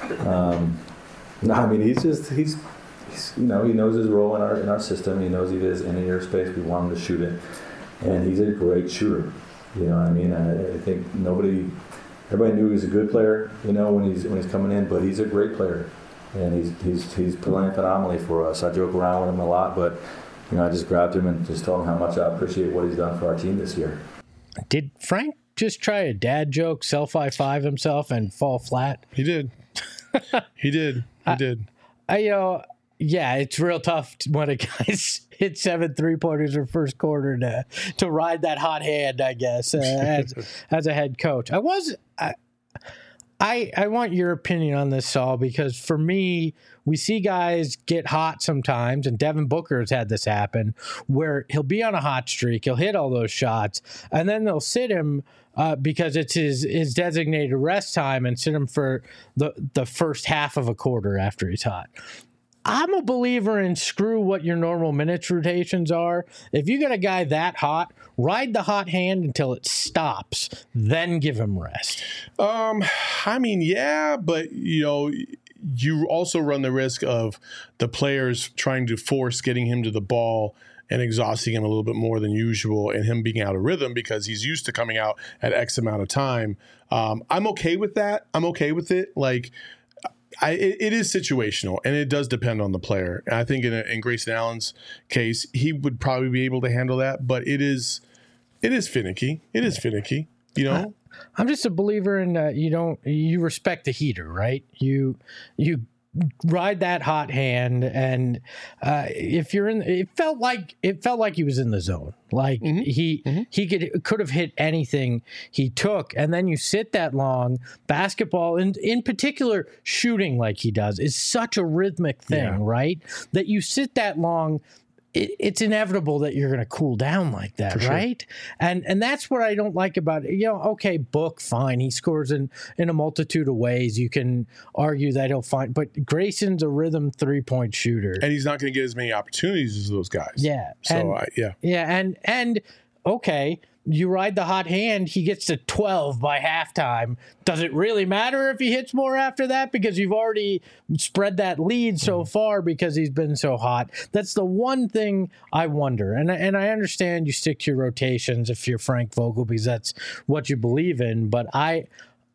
No, I mean, he knows his role in our system. He knows he is in your space. We want him to shoot it, and he's a great shooter. You know what I mean? I think everybody knew he was a good player. When he's coming in, but he's a great player, and he's playing phenomenally for us. I joke around with him a lot, but I just grabbed him and just told him how much I appreciate what he's done for our team this year. Did Frank just try a dad joke, self-high-five himself, and fall flat? He did. He did. Yeah, it's real tough when a guy's hit 7 3-pointers in first quarter to ride that hot hand, I guess, as a head coach. I want your opinion on this, Saul, because for me, we see guys get hot sometimes, and Devin Booker has had this happen, where he'll be on a hot streak, he'll hit all those shots, and then they'll sit him because it's his designated rest time and sit him for the first half of a quarter after he's hot. I'm a believer in screw what your normal minutes rotations are. If you get a guy that hot, ride the hot hand until it stops, then give him rest. I mean, yeah, but you also run the risk of the players trying to force getting him to the ball and exhausting him a little bit more than usual, and him being out of rhythm because he's used to coming out at X amount of time. I'm okay with that. I'm okay with it. Like, it is situational, and it does depend on the player. And I think in Grayson Allen's case, he would probably be able to handle that, but it is finicky. It is finicky, I'm just a believer in you respect the heater, right? You ride that hot hand, and if you're in, it felt like he was in the zone. Like he could have hit anything he took, and then you sit that long. Basketball, and in particular, shooting like he does is such a rhythmic thing, right? That you sit that long. It's inevitable that you're going to cool down like that, right? And that's what I don't like about it. Okay, Book, fine. He scores in a multitude of ways. You can argue that he'll find, but Grayson's a rhythm 3-point shooter. And he's not going to get as many opportunities as those guys. Yeah. So, and okay, you ride the hot hand, he gets to 12 by halftime. Does it really matter if he hits more after that? Because you've already spread that lead so far because he's been so hot. That's the one thing I wonder. And I understand you stick to your rotations if you're Frank Vogel because that's what you believe in. But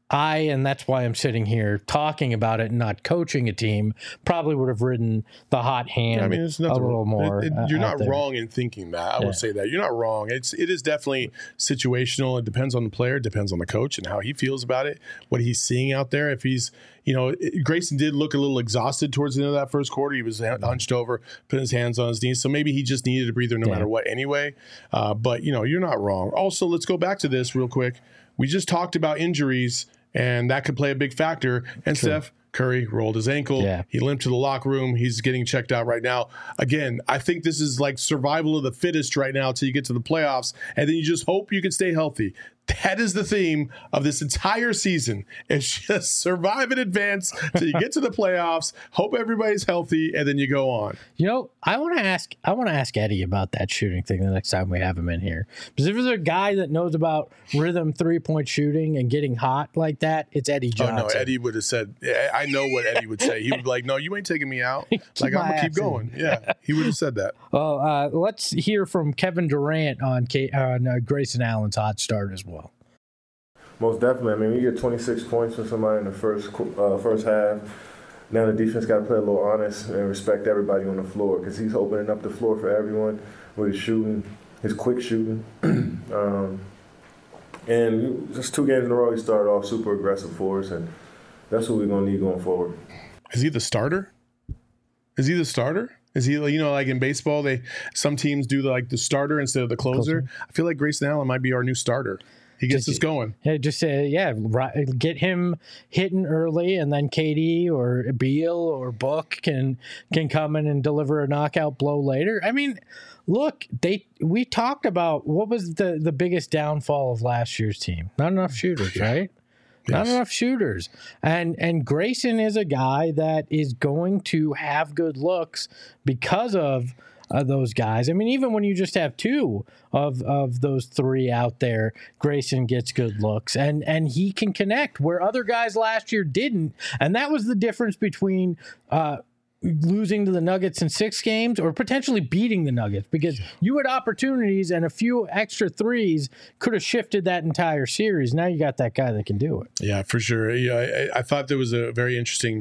and that's why I'm sitting here talking about it and not coaching a team, probably would have ridden the hot hand a little more. You're not wrong in thinking that. I would say that. You're not wrong. It is definitely situational. It depends on the player, it depends on the coach and how he feels about it, what he's seeing out there. If he's, Grayson did look a little exhausted towards the end of that first quarter. He was hunched over, putting his hands on his knees. So maybe he just needed a breather no matter what anyway. But, you're not wrong. Also, let's go back to this real quick. We just talked about injuries, and that could play a big factor. And Steph Curry rolled his ankle. Yeah. He limped to the locker room. He's getting checked out right now. Again, I think this is like survival of the fittest right now until you get to the playoffs, and then you just hope you can stay healthy. That is the theme of this entire season. It's just survive in advance till you get to the playoffs, hope everybody's healthy, and then you go on. I want to ask Eddie about that shooting thing the next time we have him in here. Because if there's a guy that knows about rhythm 3-point shooting and getting hot like that, it's Eddie Johnson. Oh, no, Eddie would have said, I know what Eddie would say. He would be like, no, you ain't taking me out. Like, I'm going to keep going. Yeah, he would have said that. Well, let's hear from Kevin Durant on Grayson Allen's hot start as well. Most definitely. I mean, we get 26 points from somebody in the first half. Now the defense got to play a little honest and respect everybody on the floor because he's opening up the floor for everyone with his shooting, his quick shooting. And just 2 games in a row, he started off super aggressive for us, and that's what we're going to need going forward. Is he the starter? Is he, like in baseball, some teams do the starter instead of the closer. I feel like Grayson Allen might be our new starter. He gets us going. Get him hitting early, and then KD or Beal or Book can come in and deliver a knockout blow later. I mean, look, we talked about what was the biggest downfall of last year's team. Not enough shooters, right? Yes. Not enough shooters. And Grayson is a guy that is going to have good looks because of those guys. I mean, even when you just have 2 of those 3 out there, Grayson gets good looks, and he can connect where other guys last year didn't. And that was the difference between losing to the Nuggets in 6 games or potentially beating the Nuggets, because you had opportunities and a few extra threes could have shifted that entire series. Now you got that guy that can do it. Yeah, for sure. Yeah, I thought there was a very interesting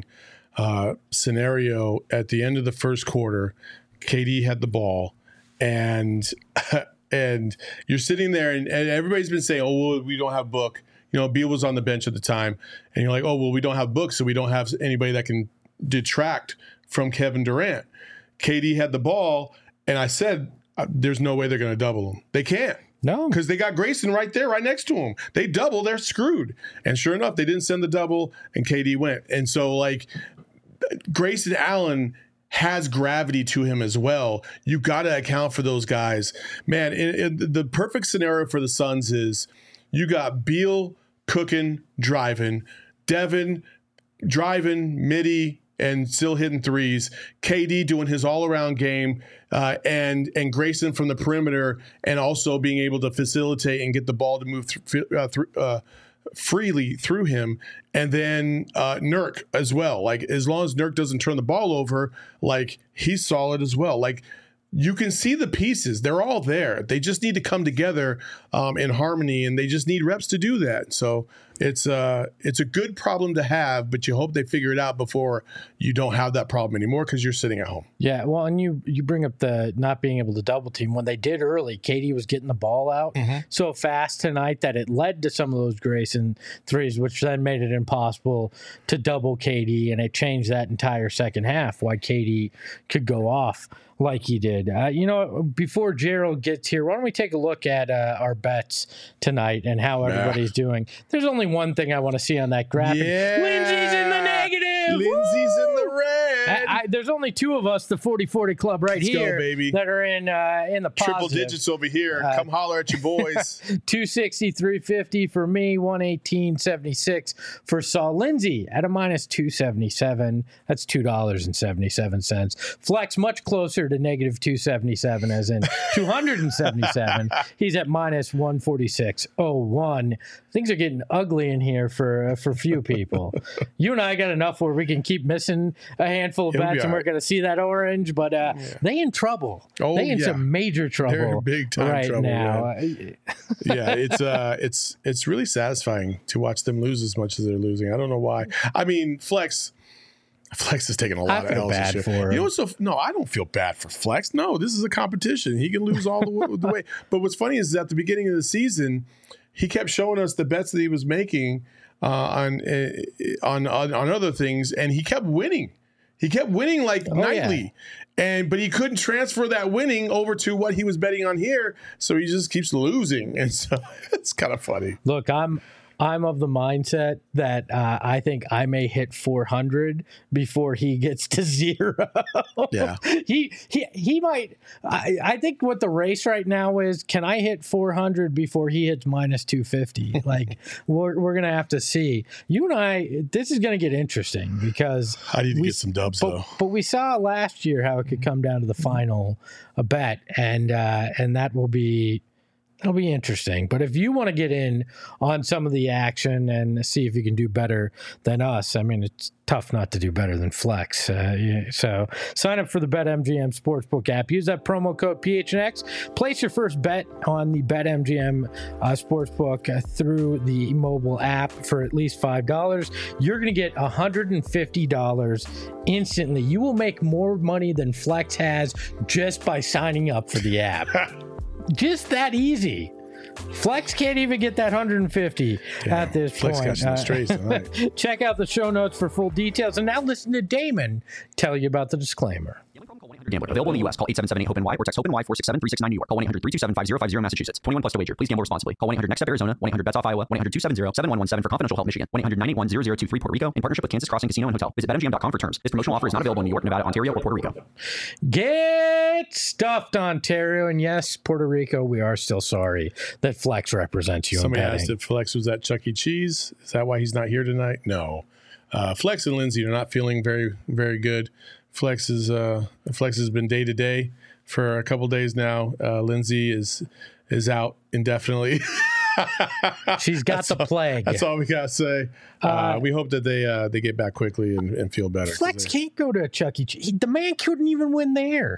scenario at the end of the first quarter. KD had the ball, and you're sitting there, and everybody's been saying, "Oh, well, we don't have Book." Beal was on the bench at the time, and you're like, "Oh, well, we don't have Book, so we don't have anybody that can detract from Kevin Durant." KD had the ball, and I said, "There's no way they're going to double him. They can't." No, because they got Grayson right there, right next to him. They double, they're screwed. And sure enough, they didn't send the double, and KD went. And so, Grayson Allen has gravity to him as well. You got to account for those guys. Man, the perfect scenario for the Suns is you got Beal cooking, driving, Devin driving, midi, and still hitting threes, KD doing his all-around game, and Grayson from the perimeter, and also being able to facilitate and get the ball to move freely through him, and then Nurk as well. As long as Nurk doesn't turn the ball over, he's solid as well. You can see the pieces; they're all there. They just need to come together in harmony, and they just need reps to do that. So it's a good problem to have, but you hope they figure it out before you don't have that problem anymore because you're sitting at home. Yeah, well, and you bring up the not being able to double team. When they did early, KD was getting the ball out so fast tonight that it led to some of those Grayson threes, which then made it impossible to double KD, and it changed that entire second half why KD could go off like he did. Before Gerald gets here, why don't we take a look at our bets tonight and how everybody's doing? There's only one thing I want to see on that graphic. Yeah. Lindsay's in the negative. Lindsay's in the red. There's only 2 of us, the 40-40 club Let's here, go, baby. that are in the positive. Triple digits over here. Come holler at your boys. 260, 350 for me, 118.76 for Saul. Lindsay at a minus 277. That's $2.77. Flex much closer to negative 277, as in 277. He's at minus 146.01. Things are getting ugly in here for few people. You and I got enough where we can keep missing a handful of bets bets, and we're going to see that orange. But they in trouble. Oh, they in some major trouble. They're in big time right trouble now. Yeah, it's really satisfying to watch them lose as much as they're losing. I don't know why. I mean, Flex is taking a lot of L's bad this year. for him. You know what's no, I don't feel bad for Flex. No, this is a competition. He can lose all the way. But what's funny is at the beginning of the season, he kept showing us the bets that he was making on other things, and he kept winning. He kept winning nightly. Yeah. But he couldn't transfer that winning over to what he was betting on here, so he just keeps losing. And so it's kind of funny. Look, I'm of the mindset that I think I may hit 400 before he gets to 0. Yeah, he might. I think what the race right now is: can I hit 400 before he hits minus 250? Like we're gonna have to see. You and I, this is gonna get interesting because I need to get some dubs though. But we saw last year how it could come down to the final bet, and that will be. It'll be interesting. But if you want to get in on some of the action and see if you can do better than us, I mean, it's tough not to do better than Flex. So sign up for the BetMGM Sportsbook app. Use that promo code PHNX. Place your first bet on the BetMGM Sportsbook through the mobile app for at least $5. You're going to get $150 instantly. You will make more money than Flex has just by signing up for the app. Just that easy. Flex can't even get that 150 at this Flex point. Got some strays tonight. Check out the show notes for full details. And now listen to Damon tell you about the disclaimer. Gambler. Available in the U.S. Call 877-8-HOPE-NY or text HOPE-NY 467-369 New York. Call 1-800-327-5050 Massachusetts. 21 plus to wager. Please gamble responsibly. Call 1-800-NEXT-STEP Arizona. 1-800-BETS-OFF Iowa. 1-800-270-7117 for confidential help Michigan. 1-800-981-0023 Puerto Rico in partnership with Kansas Crossing Casino and Hotel. Visit BetMGM.com for terms. This promotional offer is not available in New York, Nevada, Ontario, or Puerto Rico. Get stuffed, Ontario. And yes, Puerto Rico, we are still sorry that Flex represents you. Somebody asked if Flex was at Chuck E. Cheese. Is that why he's not here tonight? No. Flex and Lindsay are not feeling very, very good. Flex has been day to day for a couple days now. Lindsay is out indefinitely. She's got the plague. That's all we gotta say. We hope that they get back quickly and feel better. Flex can't go to a Chuck E. Cheese. The man couldn't even win there.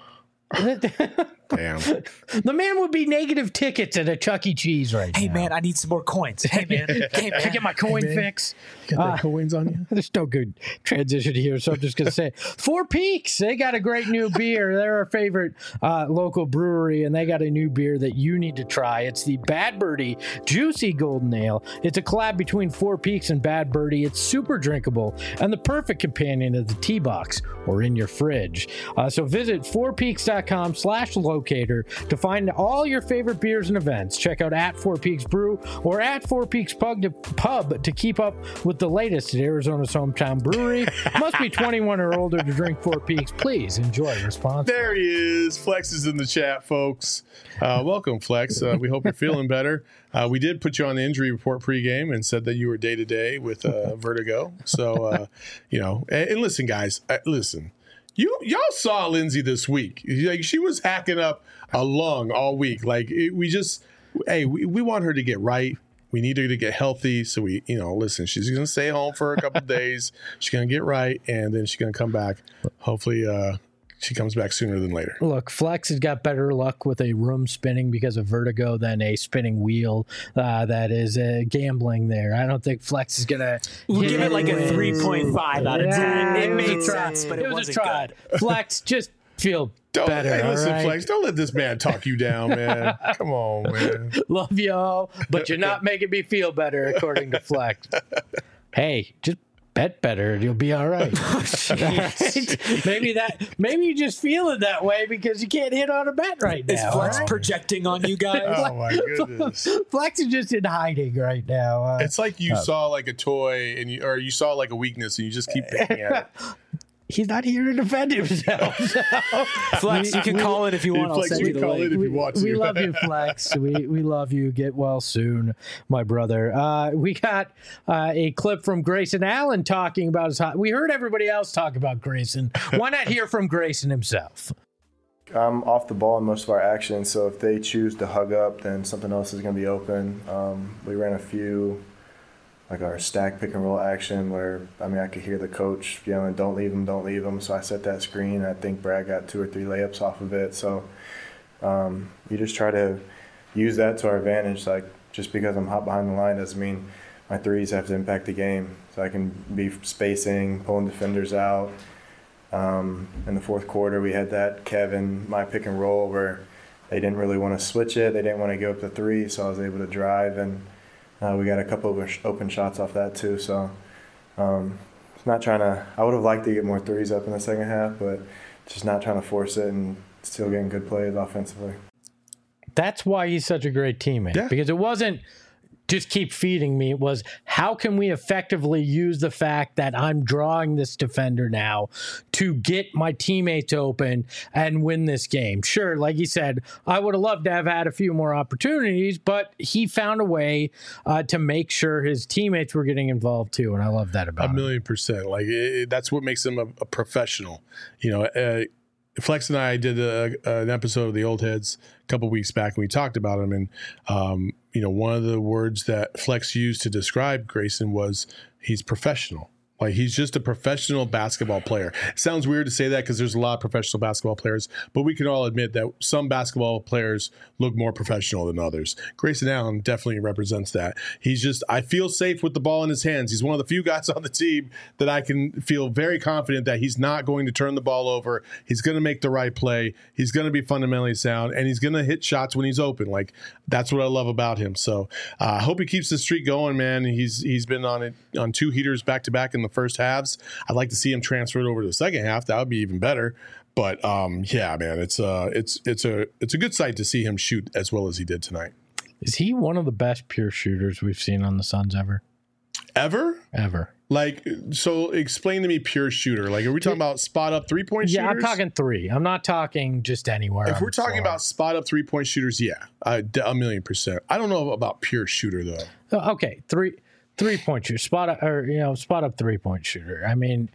Damn. The man would be negative tickets at a Chuck E. Cheese right now. Hey, man, I need some more coins. Hey, man. Can I get my coin fix? Got the coins on you? There's no good transition here, so I'm just going to say Four Peaks. They got a great new beer. They're our favorite local brewery, and they got a new beer that you need to try. It's the Bad Birdie Juicy Golden Ale. It's a collab between Four Peaks and Bad Birdie. It's super drinkable and the perfect companion of the tea box or in your fridge. So visit fourpeaks.com/locator to find all your favorite beers and events. Check out at Four Peaks Brew or at Four Peaks Pub to keep up with the latest at Arizona's hometown brewery. Must be 21 or older to drink Four Peaks. Please enjoy responsibly. There he is. Flex is in the chat, folks. Welcome, Flex. We hope you're feeling better. We did put you on the injury report pregame and said that you were day-to-day with vertigo. So, and listen, guys, listen. Y'all saw Lindsay this week. Like, she was hacking up a lung all week. Like, we want her to get right. We need her to get healthy. So listen, she's going to stay home for a couple of days. She's going to get right, and then she's going to come back. Hopefully, she comes back sooner than later. Look, Flex has got better luck with a room spinning because of vertigo than a spinning wheel that is gambling there. I don't think Flex is going to... We'll give it like a 3.5 out of 10. It made sense, but it wasn't good. Flex, just feel better. Hey, listen, right? Flex, don't let this man talk you down, man. Come on, man. Love y'all, but you're not making me feel better, according to Flex. Hey, just bet better, you'll be all right. Maybe you just feel it that way because you can't hit on a bet right now. Is Flex projecting on you guys? Oh my goodness. Flex is just in hiding right now. It's like you saw like a toy or you saw like a weakness and you just keep picking at it. He's not here to defend himself. So. Flex, you can call it if you want. Flex, I'll send you can call it if you want to. We love you, Flex. We love you. Get well soon, my brother. We got a clip from Grayson Allen talking about his hot. We heard everybody else talk about Grayson. Why not hear from Grayson himself? I'm off the ball in most of our actions, so if they choose to hug up, then something else is going to be open. We ran a few like our stack pick and roll action where, I mean, I could hear the coach yelling, don't leave him. So I set that screen. I think Brad got 2 or 3 layups off of it. So you just try to use that to our advantage. Like, just because I'm hot behind the line doesn't mean my threes have to impact the game. So I can be spacing, pulling defenders out. In the fourth quarter, we had that Kevin, my pick and roll where they didn't really want to switch it. They didn't want to go up to 3, so I was able to drive, and we got a couple of open shots off that too. So it's not trying to – I would have liked to get more threes up in the second half, but just not trying to force it and still getting good plays offensively. That's why he's such a great teammate, because it wasn't – just keep feeding me. It was, how can we effectively use the fact that I'm drawing this defender now to get my teammates open and win this game? Sure, like you said, I would have loved to have had a few more opportunities, but he found a way to make sure his teammates were getting involved too, and I love that about him. 1,000,000%. Like, that's what makes him a professional. You know, Flex and I did an episode of the Old Heads a couple weeks back, and we talked about him. And, you know, one of the words that Flex used to describe Grayson was he's professional. Like, he's just a professional basketball player. It sounds weird to say that because there's a lot of professional basketball players, but we can all admit that some basketball players look more professional than others. Grayson Allen definitely represents that. He's just, I feel safe with the ball in his hands. He's one of the few guys on the team that I can feel very confident that he's not going to turn the ball over. He's going to make the right play. He's going to be fundamentally sound, and he's going to hit shots when he's open. Like, that's what I love about him. So I hope he keeps the streak going, man. He's been on 2 heaters back-to-back in the first halves. I'd like to see him transferred over to the second half. That would be even better. But yeah, man, it's a good sight to see him shoot as well as he did tonight. Is he one of the best pure shooters we've seen on the Suns ever? Ever. Like, so explain to me pure shooter. Like, are we talking about spot up 3-point shooters? Yeah, I'm talking 3. I'm not talking just anywhere. If we're talking about spot up 3-point shooters, yeah, 1,000,000%. I don't know about pure shooter though. Okay, 3-point shooter, spot up 3-point shooter. I mean,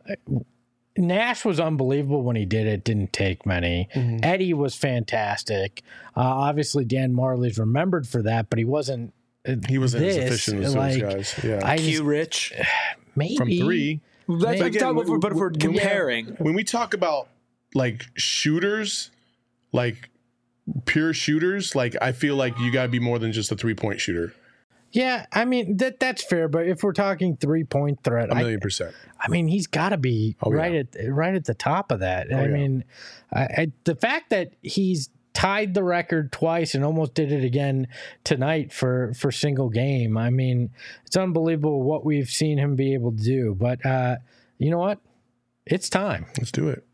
Nash was unbelievable when he did it. Didn't take many. Mm-hmm. Eddie was fantastic. Obviously, Dan Marley's remembered for that, but he wasn't. He wasn't as efficient as those guys. Yeah, Q Rich, maybe from 3. That's again, but if we're comparing, when we talk about like shooters, like pure shooters, like I feel like you got to be more than just a 3-point shooter. Yeah, I mean that's fair, but if we're talking 3-point threat, 1,000,000%. I mean he's got to be right at the top of that. I mean, the fact that he's tied the record twice and almost did it again tonight for single game. I mean, it's unbelievable what we've seen him be able to do. But you know what? It's time. Let's do it.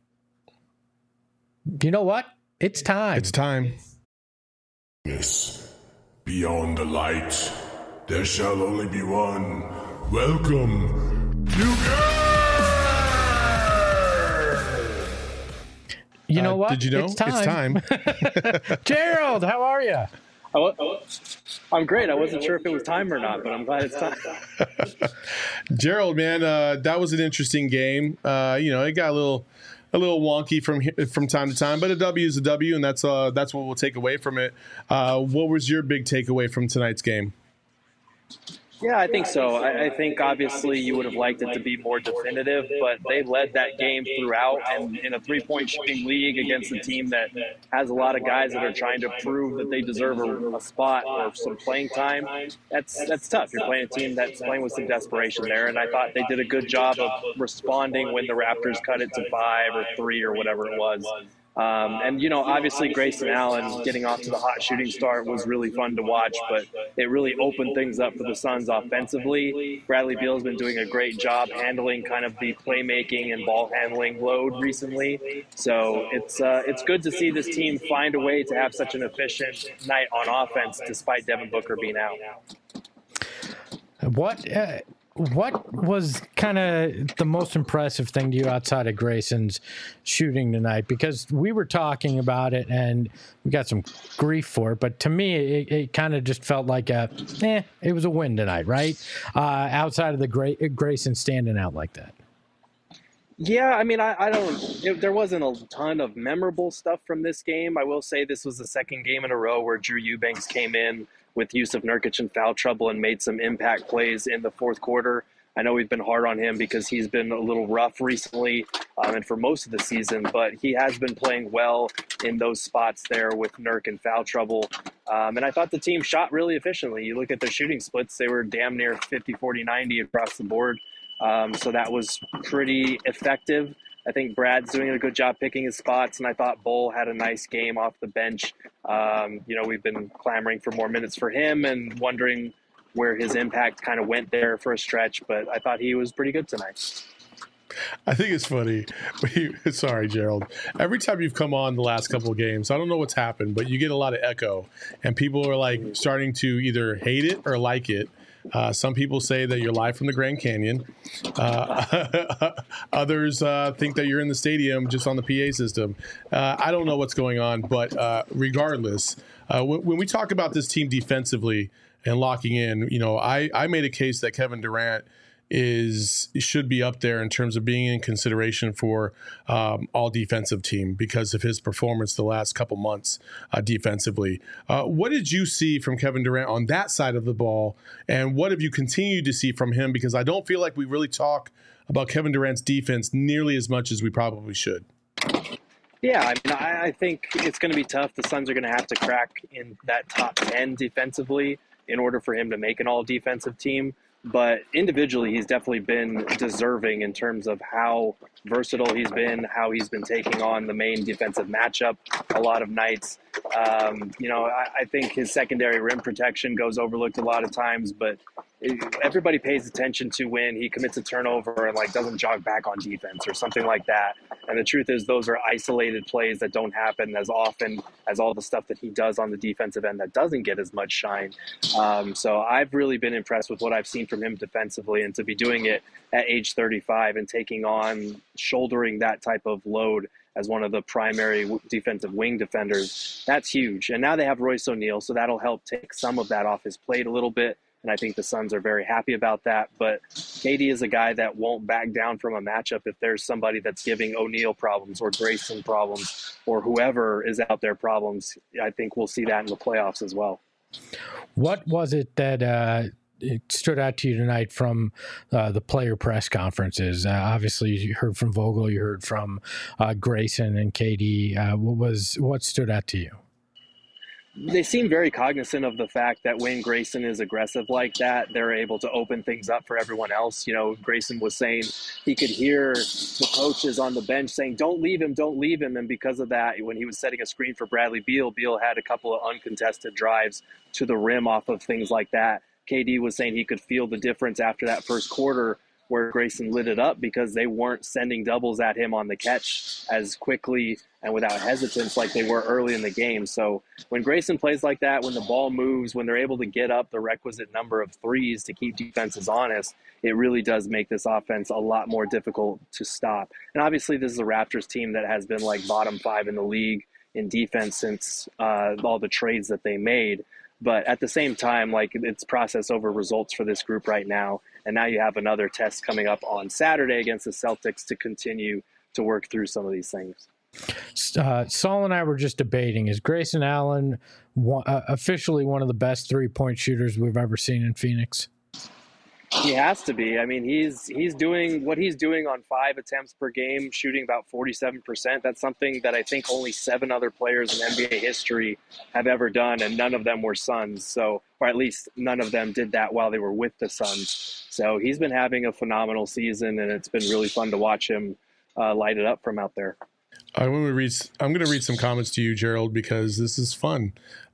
You know what? It's time. It's time. Yes. Beyond the light, there shall only be one. Welcome, You know what? Did you know? It's time. Gerald, how are you? I'm great. I wasn't sure if it was time or not, but I'm glad it's time. Gerald, man, that was an interesting game. You know, it got a little wonky from time to time, but a W is a W, and that's what we'll take away from it. What was your big takeaway from tonight's game? Yeah, I think so. I think obviously you would have liked it to be more definitive, but they led that game throughout. And in a 3-point shooting league against a team that has a lot of guys that are trying to prove that they deserve a spot or some playing time, that's tough. You're playing a team that's playing with some desperation there. And I thought they did a good job of responding when the Raptors cut it to 5 or 3 or whatever it was. And, you know, obviously Grayson Allen getting off to the hot shooting start was really fun to watch, but it really opened things up for the Suns offensively. Bradley Beal's been doing a great job handling kind of the playmaking and ball handling load recently. So it's good to see this team find a way to have such an efficient night on offense despite Devin Booker being out. What was kind of the most impressive thing to you outside of Grayson's shooting tonight? Because we were talking about it and we got some grief for it, but to me, it kind of just felt like it was a win tonight, right? Outside of the Grayson standing out like that. Yeah, I mean, I don't. There wasn't a ton of memorable stuff from this game. I will say this was the second game in a row where Drew Eubanks came in with Yusuf Nurkic in foul trouble and made some impact plays in the fourth quarter. I know we've been hard on him because he's been a little rough recently and for most of the season, but he has been playing well in those spots there with Nurk in foul trouble. And I thought the team shot really efficiently. You look at their shooting splits, they were damn near 50, 40, 90 across the board. So that was pretty effective. I think Brad's doing a good job picking his spots, and I thought Bull had a nice game off the bench. We've been clamoring for more minutes for him and wondering where his impact kind of went there for a stretch, but I thought he was pretty good tonight. I think it's funny. Sorry, Gerald. Every time you've come on the last couple of games, I don't know what's happened, but you get a lot of echo, and people are like starting to either hate it or like it. Some people say that you're live from the Grand Canyon. Others think that you're in the stadium just on the PA system. I don't know what's going on, but regardless, when we talk about this team defensively and locking in, I made a case that Kevin Durant should be up there in terms of being in consideration for all defensive team because of his performance the last couple months defensively. What did you see from Kevin Durant on that side of the ball, and what have you continued to see from him? Because I don't feel like we really talk about Kevin Durant's defense nearly as much as we probably should. Yeah, I mean, I think it's going to be tough. The Suns are going to have to crack in that top 10 defensively in order for him to make an all-defensive team. But individually, he's definitely been deserving in terms of how versatile he's been, how he's been taking on the main defensive matchup a lot of nights. I think his secondary rim protection goes overlooked a lot of times, but everybody pays attention to when he commits a turnover and doesn't jog back on defense or something like that. And the truth is those are isolated plays that don't happen as often as all the stuff that he does on the defensive end that doesn't get as much shine. So I've really been impressed with what I've seen from him defensively, and to be doing it at age 35 and shouldering that type of load as one of the primary defensive wing defenders, that's huge. And now they have Royce O'Neal, so that'll help take some of that off his plate a little bit. And I think the Suns are very happy about that. But KD is a guy that won't back down from a matchup if there's somebody that's giving O'Neal problems or Grayson problems or whoever is out there problems. I think we'll see that in the playoffs as well. What was it that it stood out to you tonight from the player press conferences? Obviously, you heard from Vogel, you heard from Grayson and KD. What stood out to you? They seem very cognizant of the fact that when Grayson is aggressive like that, they're able to open things up for everyone else. Grayson was saying he could hear the coaches on the bench saying, don't leave him. And because of that, when he was setting a screen for Bradley Beal had a couple of uncontested drives to the rim off of things like that. KD was saying he could feel the difference after that first quarter where Grayson lit it up because they weren't sending doubles at him on the catch as quickly and without hesitance like they were early in the game. So when Grayson plays like that, when the ball moves, when they're able to get up the requisite number of threes to keep defenses honest, it really does make this offense a lot more difficult to stop. And obviously this is a Raptors team that has been bottom 5 in the league in defense since all the trades that they made. But at the same time, it's process over results for this group right now. And now you have another test coming up on Saturday against the Celtics to continue to work through some of these things. Saul and I were just debating, is Grayson Allen officially one of the best three-point shooters we've ever seen in Phoenix? He has to be. I mean, he's doing what he's doing on 5 attempts per game, shooting about 47%. That's something that I think only 7 other players in NBA history have ever done, and none of them were Suns. Or at least none of them did that while they were with the Suns. So he's been having a phenomenal season, and it's been really fun to watch him light it up from out there. I'm going to read some comments to you, Gerald, because this is fun.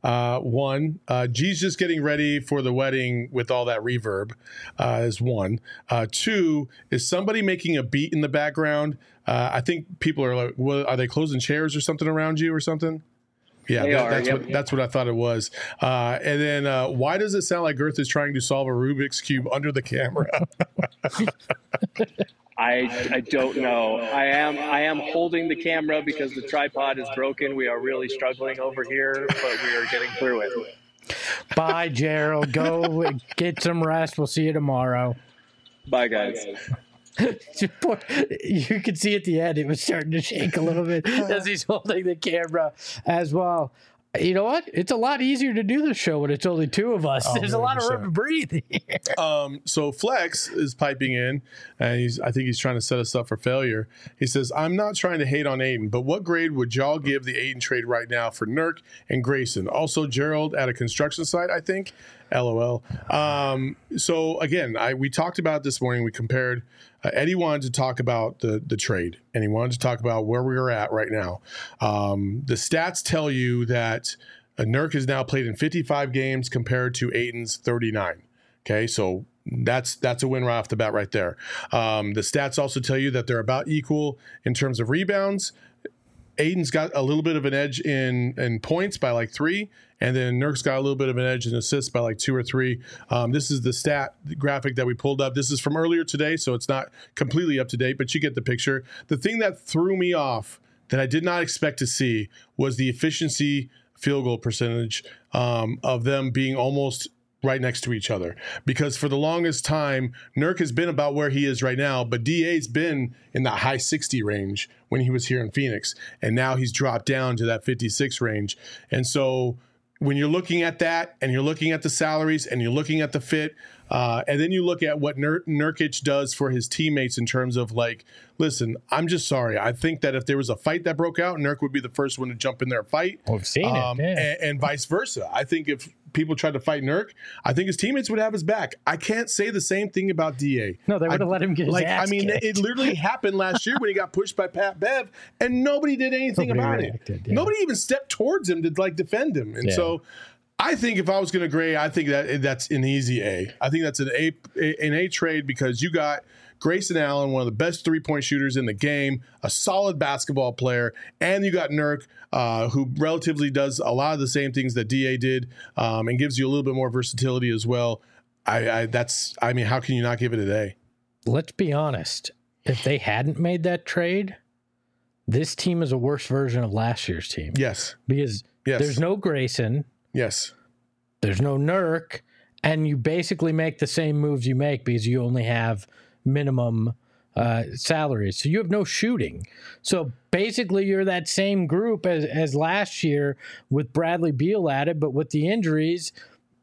One, G's just getting ready for the wedding with all that reverb is one. 2, is somebody making a beat in the background? I think people are like, well, are they closing chairs or something around you or something? Yeah, that's what I thought it was. And then why does it sound like Girth is trying to solve a Rubik's Cube under the camera? I don't know. I am holding the camera because the tripod is broken. We are really struggling over here, but we are getting through it. Bye, Gerald. Go get some rest. We'll see you tomorrow. Bye, guys. You could see at the end it was starting to shake a little bit as he's holding the camera as well. You know what? It's a lot easier to do the show when it's only two of us. There's 100%. A lot of room to breathe here. So Flex is piping in, and I think he's trying to set us up for failure. He says, I'm not trying to hate on Aiden, but what grade would y'all give the Aiden trade right now for Nurk and Grayson? Also, Gerald at a construction site, I think. LOL. So again, we talked about it this morning. We compared. Eddie wanted to talk about the trade, and he wanted to talk about where we are at right now. The stats tell you that Nurk has now played in 55 games compared to Aiden's 39. Okay, so that's a win right off the bat right there. The stats also tell you that they're about equal in terms of rebounds. Aiden's got a little bit of an edge in points by like 3, and then Nurk's got a little bit of an edge in assists by like 2 or 3. This is the stat graphic that we pulled up. This is from earlier today, so it's not completely up to date, but you get the picture. The thing that threw me off that I did not expect to see was the efficiency field goal percentage of them being almost right next to each other, because for the longest time, Nurk has been about where he is right now, but DA's been in the high 60 range when he was here in Phoenix, and now he's dropped down to that 56 range. And so when you're looking at that, and you're looking at the salaries, and you're looking at the fit, and then you look at what Nurkic does for his teammates in terms of like, listen, I'm just sorry. I think that if there was a fight that broke out, Nurk would be the first one to jump in there and fight. We've seen it. Yeah. And vice versa. I think if people tried to fight Nurk, I think his teammates would have his back. I can't say the same thing about DA. No, they would have let him get his ass kicked. It literally happened last year when he got pushed by Pat Bev, and nobody did anything about it. Yeah. Nobody even stepped towards him to like defend him. And so I think if I was going to grade, I think that's an easy A. I think that's an A trade, because you got Grayson Allen, one of the best three-point shooters in the game, a solid basketball player, and you got Nurk, who relatively does a lot of the same things that DA did, and gives you a little bit more versatility as well. How can you not give it an A? Let's be honest. If they hadn't made that trade, this team is a worse version of last year's team. Yes. Because there's no Grayson. Yes. There's no Nurk, and you basically make the same moves you make because you only have minimum salaries. So you have no shooting. So basically you're that same group as last year with Bradley Beal at it, but with the injuries,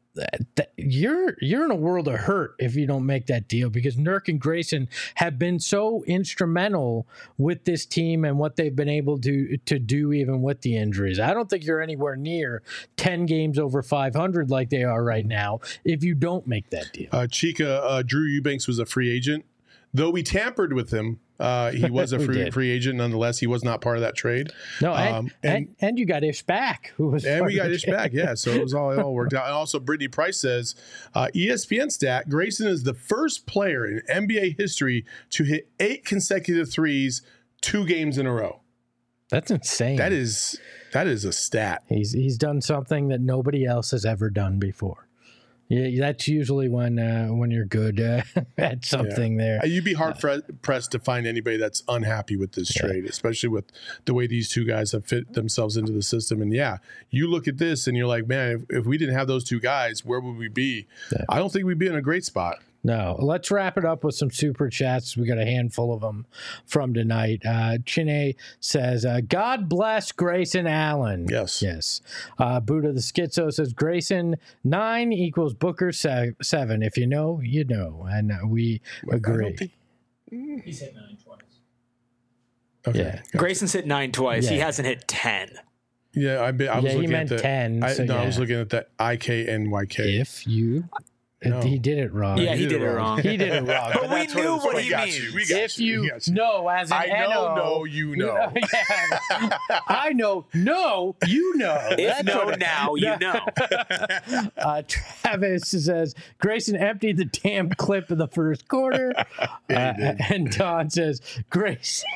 you're in a world of hurt if you don't make that deal, because Nurk and Grayson have been so instrumental with this team and what they've been able to do even with the injuries. I don't think you're anywhere near 10 games over 500 like they are right now if you don't make that deal. Chica, Drew Eubanks was a free agent. Though we tampered with him, he was a free agent nonetheless. He was not part of that trade. No, and you got Ish back, who was, and we got Ish back. Yeah, so it all worked out. And also, Brittany Price says, ESPN stat: Grayson is the first player in NBA history to hit 8 consecutive threes 2 games in a row. That's insane. That is a stat. He's done something that nobody else has ever done before. Yeah, that's usually when you're good at something there. You'd be hard pressed to find anybody that's unhappy with this trade, especially with the way these two guys have fit themselves into the system. And you look at this and you're like, man, if we didn't have those two guys, where would we be? Yeah. I don't think we'd be in a great spot. No, let's wrap it up with some super chats. We got a handful of them from tonight. Chine says, God bless Grayson Allen. Yes. Buddha the Schizo says, Grayson 9 equals Booker 7. If you know, you know. And we agree. He's hit 9 twice. Okay. Yeah. Grayson's hit 9 twice. Yeah. He hasn't hit 10. Yeah, I was looking at 10. I was looking at that IKNYK. If you... No. He did it wrong. Yeah, he did it wrong. He did it wrong. But we knew what he means. If you know, as an I you know. I know, no, you know. If now, you know. Travis says, Grayson emptied the damn clip in the first quarter. And Don says, Grayson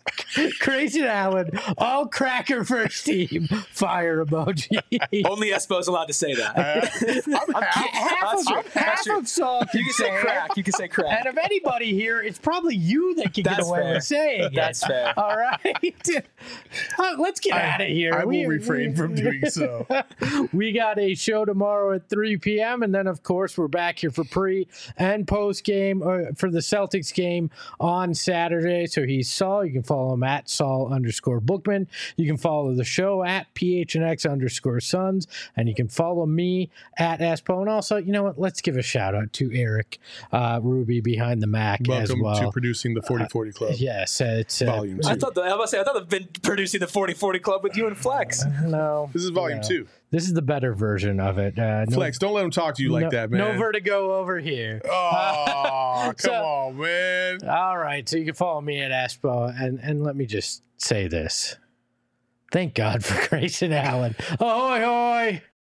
Allen, all cracker first team, fire emoji. Only Espo's allowed to say that. half of Saul can You can say crack. You can say crack. And of anybody here, it's probably you that can get away with saying That's it. fair. All right. Let's get out of here. I will refrain from doing so. We got a show tomorrow at 3 p.m. And then, of course, we're back here for pre and post game for the Celtics game on Saturday. So he's Saul. You can follow him at Saul_Bookman. You can follow the show at PHNX_Suns. And you can follow me at Espo. And also, you know what? Let's give a shout out to Eric Ruby behind the Mac as well. Welcome to producing the 4040 Club. Yes, it's Volume 2. I thought they've been producing the 4040 Club with you and Flex. No. This is Volume 2. This is the better version of it. Flex, don't let him talk to you like that, man. No vertigo over here. Oh, come on, man. All right, so you can follow me at Espo, and let me just say this. Thank God for Grayson Allen. Ahoy, hoy!